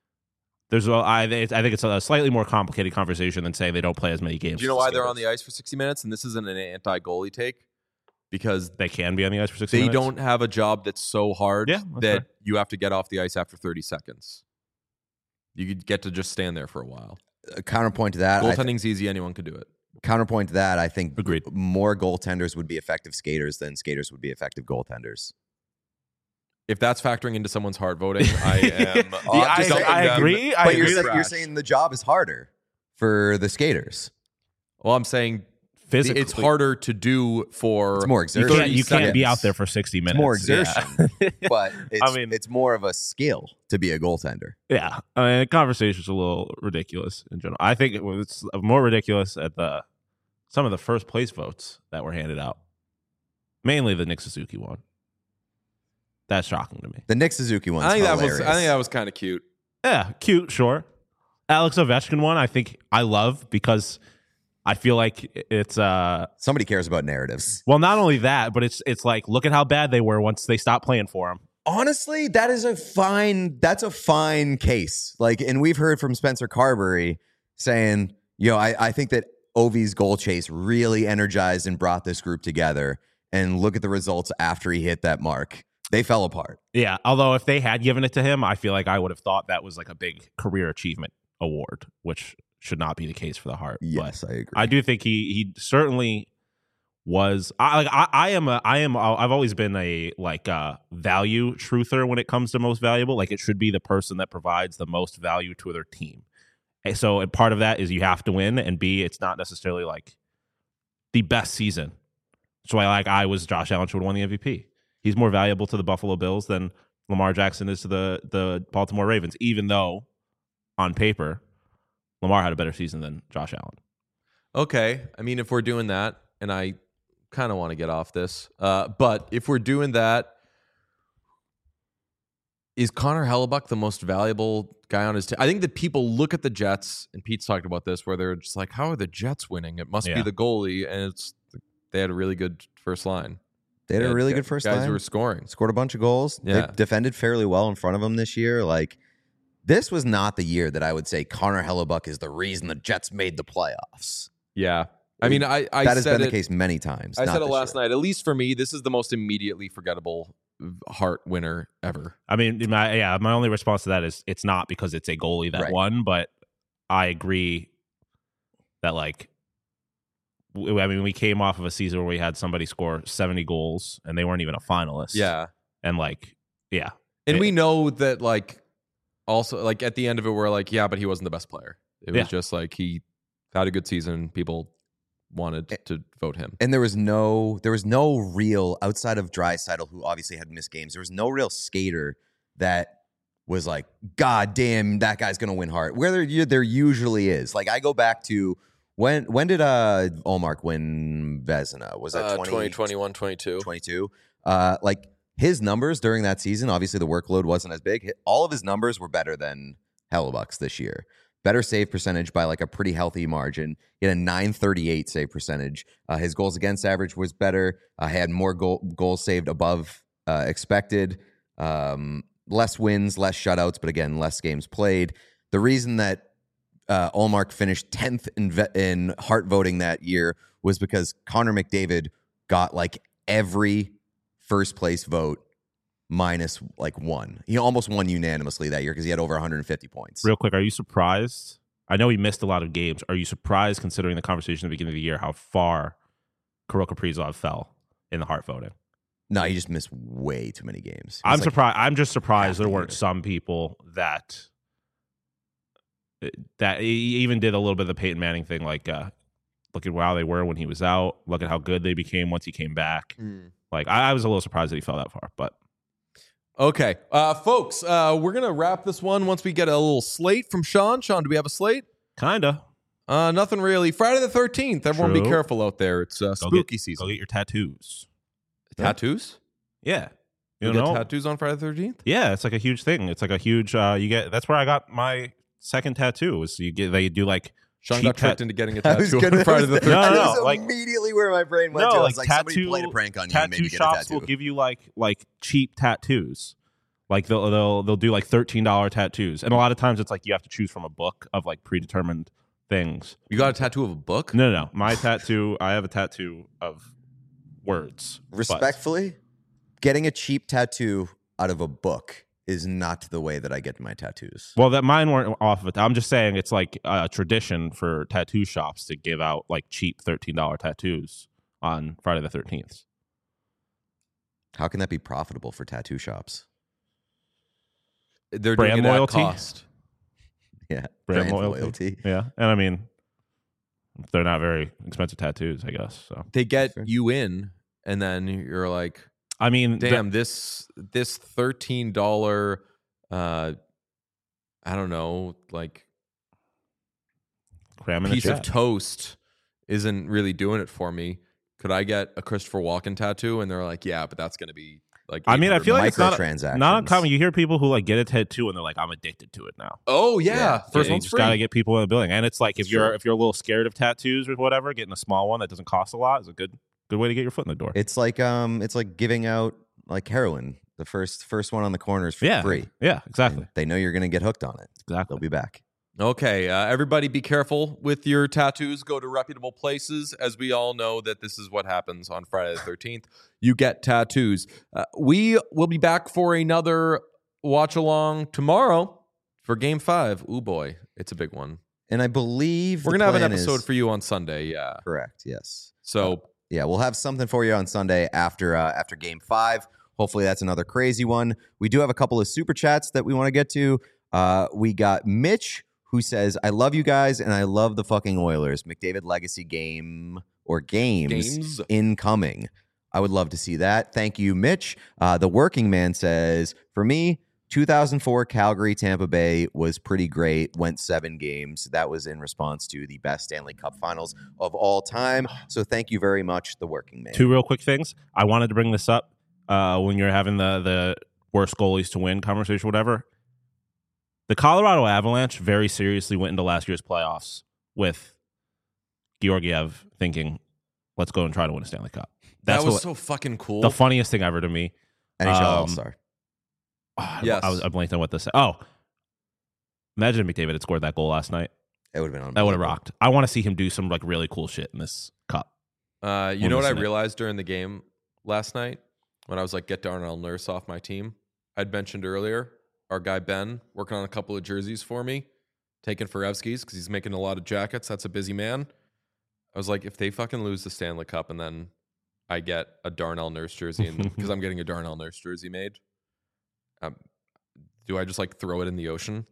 Speaker 2: I think it's a slightly more complicated conversation than saying they don't play as many games.
Speaker 1: Do you know
Speaker 2: as
Speaker 1: why they're on
Speaker 2: skaters.
Speaker 1: the ice for 60 minutes? And this isn't an anti-goalie take. Because
Speaker 2: They can be on the ice for 60
Speaker 1: they
Speaker 2: minutes.
Speaker 1: don't have a job that's so hard
Speaker 2: Yeah, that's
Speaker 1: that
Speaker 2: fair.
Speaker 1: you have to get off the ice after 30 seconds. You could get to just stand there for a while.
Speaker 3: Counterpoint to that,
Speaker 1: Goaltending's easy. Anyone could do it.
Speaker 3: I think
Speaker 2: Agreed.
Speaker 3: more goaltenders would be effective skaters than skaters would be effective goaltenders.
Speaker 1: If that's factoring into someone's hard voting, I am.
Speaker 2: I agree. I
Speaker 3: But
Speaker 2: agree.
Speaker 3: you're saying the job is harder for the skaters.
Speaker 1: Well, I'm saying
Speaker 2: Physically,
Speaker 1: it's harder to do for.
Speaker 3: It's more
Speaker 2: You
Speaker 3: exertion.
Speaker 1: 30
Speaker 2: can't be
Speaker 1: seconds.
Speaker 2: out there for 60 minutes.
Speaker 3: It's more
Speaker 2: Yeah.
Speaker 3: exertion, but
Speaker 2: mean-
Speaker 3: it's more of a skill to be a goaltender.
Speaker 2: Yeah, I mean, the conversation's a little ridiculous in general. I think it's more ridiculous at some of the first place votes that were handed out, mainly the Nick Suzuki one. That's shocking to me.
Speaker 3: The Nick Suzuki one's
Speaker 1: I think
Speaker 3: hilarious.
Speaker 1: that was kind of cute.
Speaker 2: Yeah, cute, sure. Alex Ovechkin one, I think I love because I feel like it's
Speaker 3: Somebody cares about narratives.
Speaker 2: well, not only that, but it's like look at how bad they were once they stopped playing for him.
Speaker 3: Honestly, that's a fine case. Like, and we've heard from Spencer Carberry saying, I think that Ovi's goal chase really energized and brought this group together. And look at the results after he hit that mark. They fell apart.
Speaker 2: Yeah, although if they had given it to him, I feel like I would have thought that was like a big career achievement award, which should not be the case for the Hart.
Speaker 3: Yes,
Speaker 2: But
Speaker 3: I agree.
Speaker 2: I do think he certainly was. I've always been a value truther when it comes to most valuable. Like, it should be the person that provides the most value to their team. And so part of that is you have to win, and B, it's not necessarily like the best season. So I was Josh Allen should have won the MVP. He's more valuable to the Buffalo Bills than Lamar Jackson is to the Baltimore Ravens, even though on paper Lamar had a better season than Josh Allen.
Speaker 1: Okay. I mean, if we're doing that, and I kind of want to get off this, but if we're doing that, is Connor Hellebuck the most valuable guy on his team? I think that people look at the Jets, and Pete's talked about this, where they're just like, how are the Jets winning? It must be the goalie, and they had a really good first line.
Speaker 3: They had a really good first line.
Speaker 1: Guys who were scoring.
Speaker 3: Scored a bunch of goals.
Speaker 1: Yeah.
Speaker 3: They defended fairly well in front of them this year. Like, this was not the year that I would say Connor Hellebuck is the reason the Jets made the playoffs.
Speaker 1: Yeah. I mean, I
Speaker 3: that has
Speaker 1: said
Speaker 3: been the case many times.
Speaker 1: I said it last night. At least for me, this is the most immediately forgettable Hart winner ever.
Speaker 2: I mean, my only response to that is it's not because it's a goalie that won, but I agree that, like, I mean, we came off of a season where we had somebody score 70 goals and they weren't even a finalist.
Speaker 1: Yeah.
Speaker 2: And, like, yeah.
Speaker 1: And we know that, like, also, like, at the end of it, we're like, yeah, but he wasn't the best player. It was just like he had a good season. People wanted to vote him.
Speaker 3: And there was no real, outside of Draisaitl, who obviously had missed games, there was no real skater that was like, God damn, that guy's going to win Hart. Where there usually is. Like, I go back to, when did Ullmark win Vezina? Was that
Speaker 1: 2021, 22?
Speaker 3: 22. Like, his numbers during that season, obviously the workload wasn't as big. All of his numbers were better than Hellebuck's this year. Better save percentage by like a pretty healthy margin. He had a .938 save percentage. His goals against average was better. Had more goals saved above expected. Less wins, less shutouts, but again, less games played. The reason that Ullmark finished 10th in Hart voting that year was because Connor McDavid got like every first place vote minus like one. He almost won unanimously that year because he had over 150 points.
Speaker 2: Real quick, are you surprised? I know he missed a lot of games. Are you surprised, considering the conversation at the beginning of the year, how far Kirill Kaprizov fell in the Hart voting?
Speaker 3: No, he just missed way too many games.
Speaker 2: I'm surprised. I'm just surprised there weren't some people that he even did a little bit of the Peyton Manning thing, like look at how they were when he was out. Look at how good they became once he came back. Like, I was a little surprised that he fell that far, but.
Speaker 1: Okay, folks, we're going to wrap this one once we get a little slate from Sean. Sean, do we have a slate?
Speaker 2: Kinda.
Speaker 1: Nothing really. Friday the 13th. Everyone be careful out there. It's spooky season.
Speaker 2: Go get your tattoos.
Speaker 1: Tattoos?
Speaker 2: Yeah.
Speaker 1: You get tattoos on Friday the 13th?
Speaker 2: Yeah, it's like a huge thing. It's like a huge, that's where I got my second tattoo. Is they do like
Speaker 1: Sean got tricked into getting a tattoo on Friday the 13th.
Speaker 3: That was
Speaker 2: like,
Speaker 3: immediately where my brain went to. I was like, somebody played a prank on you and made you get a tattoo.
Speaker 2: Tattoo shops will give you like cheap tattoos. Like they'll do like $13 tattoos. And a lot of times it's like you have to choose from a book of like predetermined things.
Speaker 1: You got a tattoo of a book?
Speaker 2: No. My tattoo, I have a tattoo of words.
Speaker 3: Respectfully, getting a cheap tattoo out of a book is not the way that I get my tattoos.
Speaker 2: Well, that mine weren't off of it. I'm just saying it's like a tradition for tattoo shops to give out like cheap $13 tattoos on Friday the 13th.
Speaker 3: How can that be profitable for tattoo shops?
Speaker 1: They're
Speaker 2: brand
Speaker 1: doing it
Speaker 2: loyalty.
Speaker 1: At cost.
Speaker 3: Yeah,
Speaker 2: brand loyalty. Yeah, and I mean, they're not very expensive tattoos, I guess. So
Speaker 1: they get you in, and then you're like,
Speaker 2: I mean,
Speaker 1: damn, this $13, I don't know, like piece of toast isn't really doing it for me. Could I get a Christopher Walken tattoo? And they're like, yeah, but that's going to be like,
Speaker 2: I mean, I feel like it's not uncommon. You hear people who like get a tattoo and they're like, I'm addicted to it now.
Speaker 1: Oh yeah. First
Speaker 2: you
Speaker 1: one's
Speaker 2: just
Speaker 1: free.
Speaker 2: Gotta get people in the building. And it's like, if you're a little scared of tattoos or whatever, getting a small one that doesn't cost a lot is a good way to get your foot in the door.
Speaker 3: It's like giving out like heroin. The first one on the corner is free.
Speaker 2: Yeah, exactly.
Speaker 3: And they know you're going to get hooked on it.
Speaker 2: Exactly.
Speaker 3: They'll be back.
Speaker 1: Okay, everybody be careful with your tattoos. Go to reputable places. As we all know that this is what happens on Friday the 13th. You get tattoos. We will be back for another watch-along tomorrow for Game 5. Ooh, boy. It's a big one.
Speaker 3: And I believe
Speaker 1: we're going to have an episode for you on Sunday. Yeah.
Speaker 3: Correct, yes.
Speaker 1: So,
Speaker 3: yeah, we'll have something for you on Sunday after Game 5. Hopefully that's another crazy one. We do have a couple of super chats that we want to get to. We got Mitch, who says, I love you guys, and I love the fucking Oilers. McDavid Legacy game or games incoming. I would love to see that. Thank you, Mitch. The Working Man says, for me, 2004 Calgary Tampa Bay was pretty great. Went 7 games. That was in response to the best Stanley Cup Finals of all time. So thank you very much, The Working Man.
Speaker 2: 2 real quick things. I wanted to bring this up when you're having the worst goalies to win conversation, whatever. The Colorado Avalanche very seriously went into last year's playoffs with Georgiev thinking, let's go and try to win a Stanley Cup.
Speaker 1: That was so fucking cool.
Speaker 2: The funniest thing ever to me.
Speaker 3: NHL All-Star.
Speaker 1: Yes.
Speaker 2: I blanked on what this. Oh, imagine if McDavid had scored that goal last night.
Speaker 3: It would have been
Speaker 2: That would have rocked. I want to see him do some like really cool shit in this cup.
Speaker 1: You know what I realized during the game last night when I was like, get Darnell Nurse off my team? I'd mentioned earlier, our guy Ben working on a couple of jerseys for me, taking Forevsky's because he's making a lot of jackets. That's a busy man. I was like, if they fucking lose the Stanley Cup and then I get a Darnell Nurse jersey because I'm getting a Darnell Nurse jersey made, do I just like throw it in the ocean?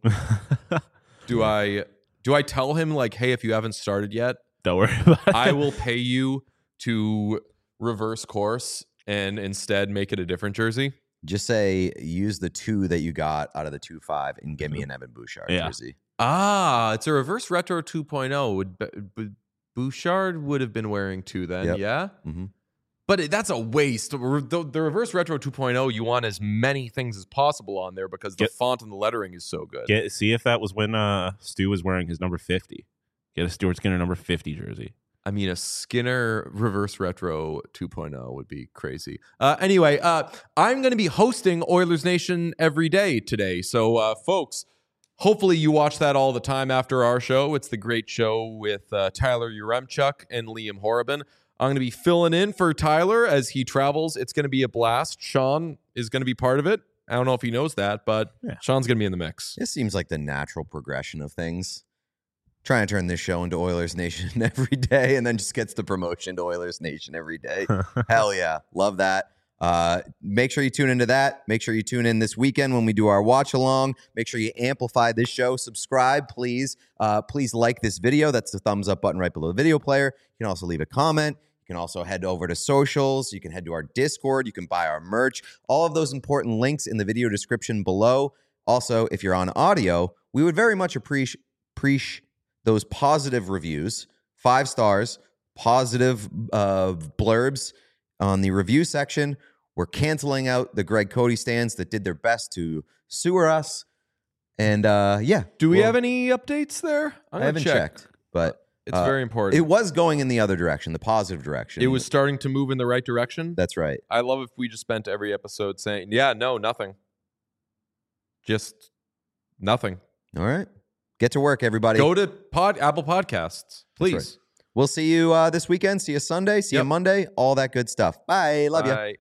Speaker 1: Do I tell him like, hey, if you haven't started yet,
Speaker 2: don't worry about it.
Speaker 1: I will pay you to reverse course and instead make it a different jersey?
Speaker 3: Just say, use the 2 that you got out of the 2.5 and give me an Evan Bouchard jersey.
Speaker 1: It's a reverse retro 2.0. Would Bouchard would have been wearing 2 then,
Speaker 3: Yep.
Speaker 1: yeah?
Speaker 3: Mm-hmm.
Speaker 1: But that's a waste. The reverse retro 2.0, you want as many things as possible on there because the font and the lettering is so good.
Speaker 2: See if that was when Stu was wearing his number 50. Get a Stuart Skinner number 50 jersey.
Speaker 1: I mean, a Skinner reverse retro 2.0 would be crazy. Anyway, I'm going to be hosting Oilers Nation every day today. So, folks, hopefully you watch that all the time after our show. It's the great show with Tyler Uremchuk and Liam Horrobin. I'm going to be filling in for Tyler as he travels. It's going to be a blast. Sean is going to be part of it. I don't know if he knows that, but Sean's going to be in the mix.
Speaker 3: This seems like the natural progression of things. Trying to turn this show into Oilers Nation every day and then just gets the promotion to Oilers Nation every day. Hell yeah. Love that. Make sure you tune into that. Make sure you tune in this weekend when we do our watch along. Make sure you amplify this show. Subscribe, please. Please like this video. That's the thumbs up button right below the video player. You can also leave a comment. You can also head over to socials. You can head to our Discord. You can buy our merch. All of those important links in the video description below. Also, if you're on audio, we would very much appreciate those positive reviews, 5 stars, positive blurbs on the review section. We're canceling out the Greg Cody stands that did their best to sewer us. And
Speaker 1: do we have any updates there?
Speaker 3: I haven't checked, but
Speaker 1: it's very important.
Speaker 3: It was going in the other direction, the positive direction.
Speaker 1: It was starting to move in the right direction.
Speaker 3: That's right.
Speaker 1: I love if we just spent every episode saying, yeah, no, nothing. Just nothing.
Speaker 3: All right. Get to work, everybody.
Speaker 1: Go to Apple Podcasts, please.
Speaker 3: Right. We'll see you this weekend. See you Sunday. See you Monday. All that good stuff. Bye. Love you.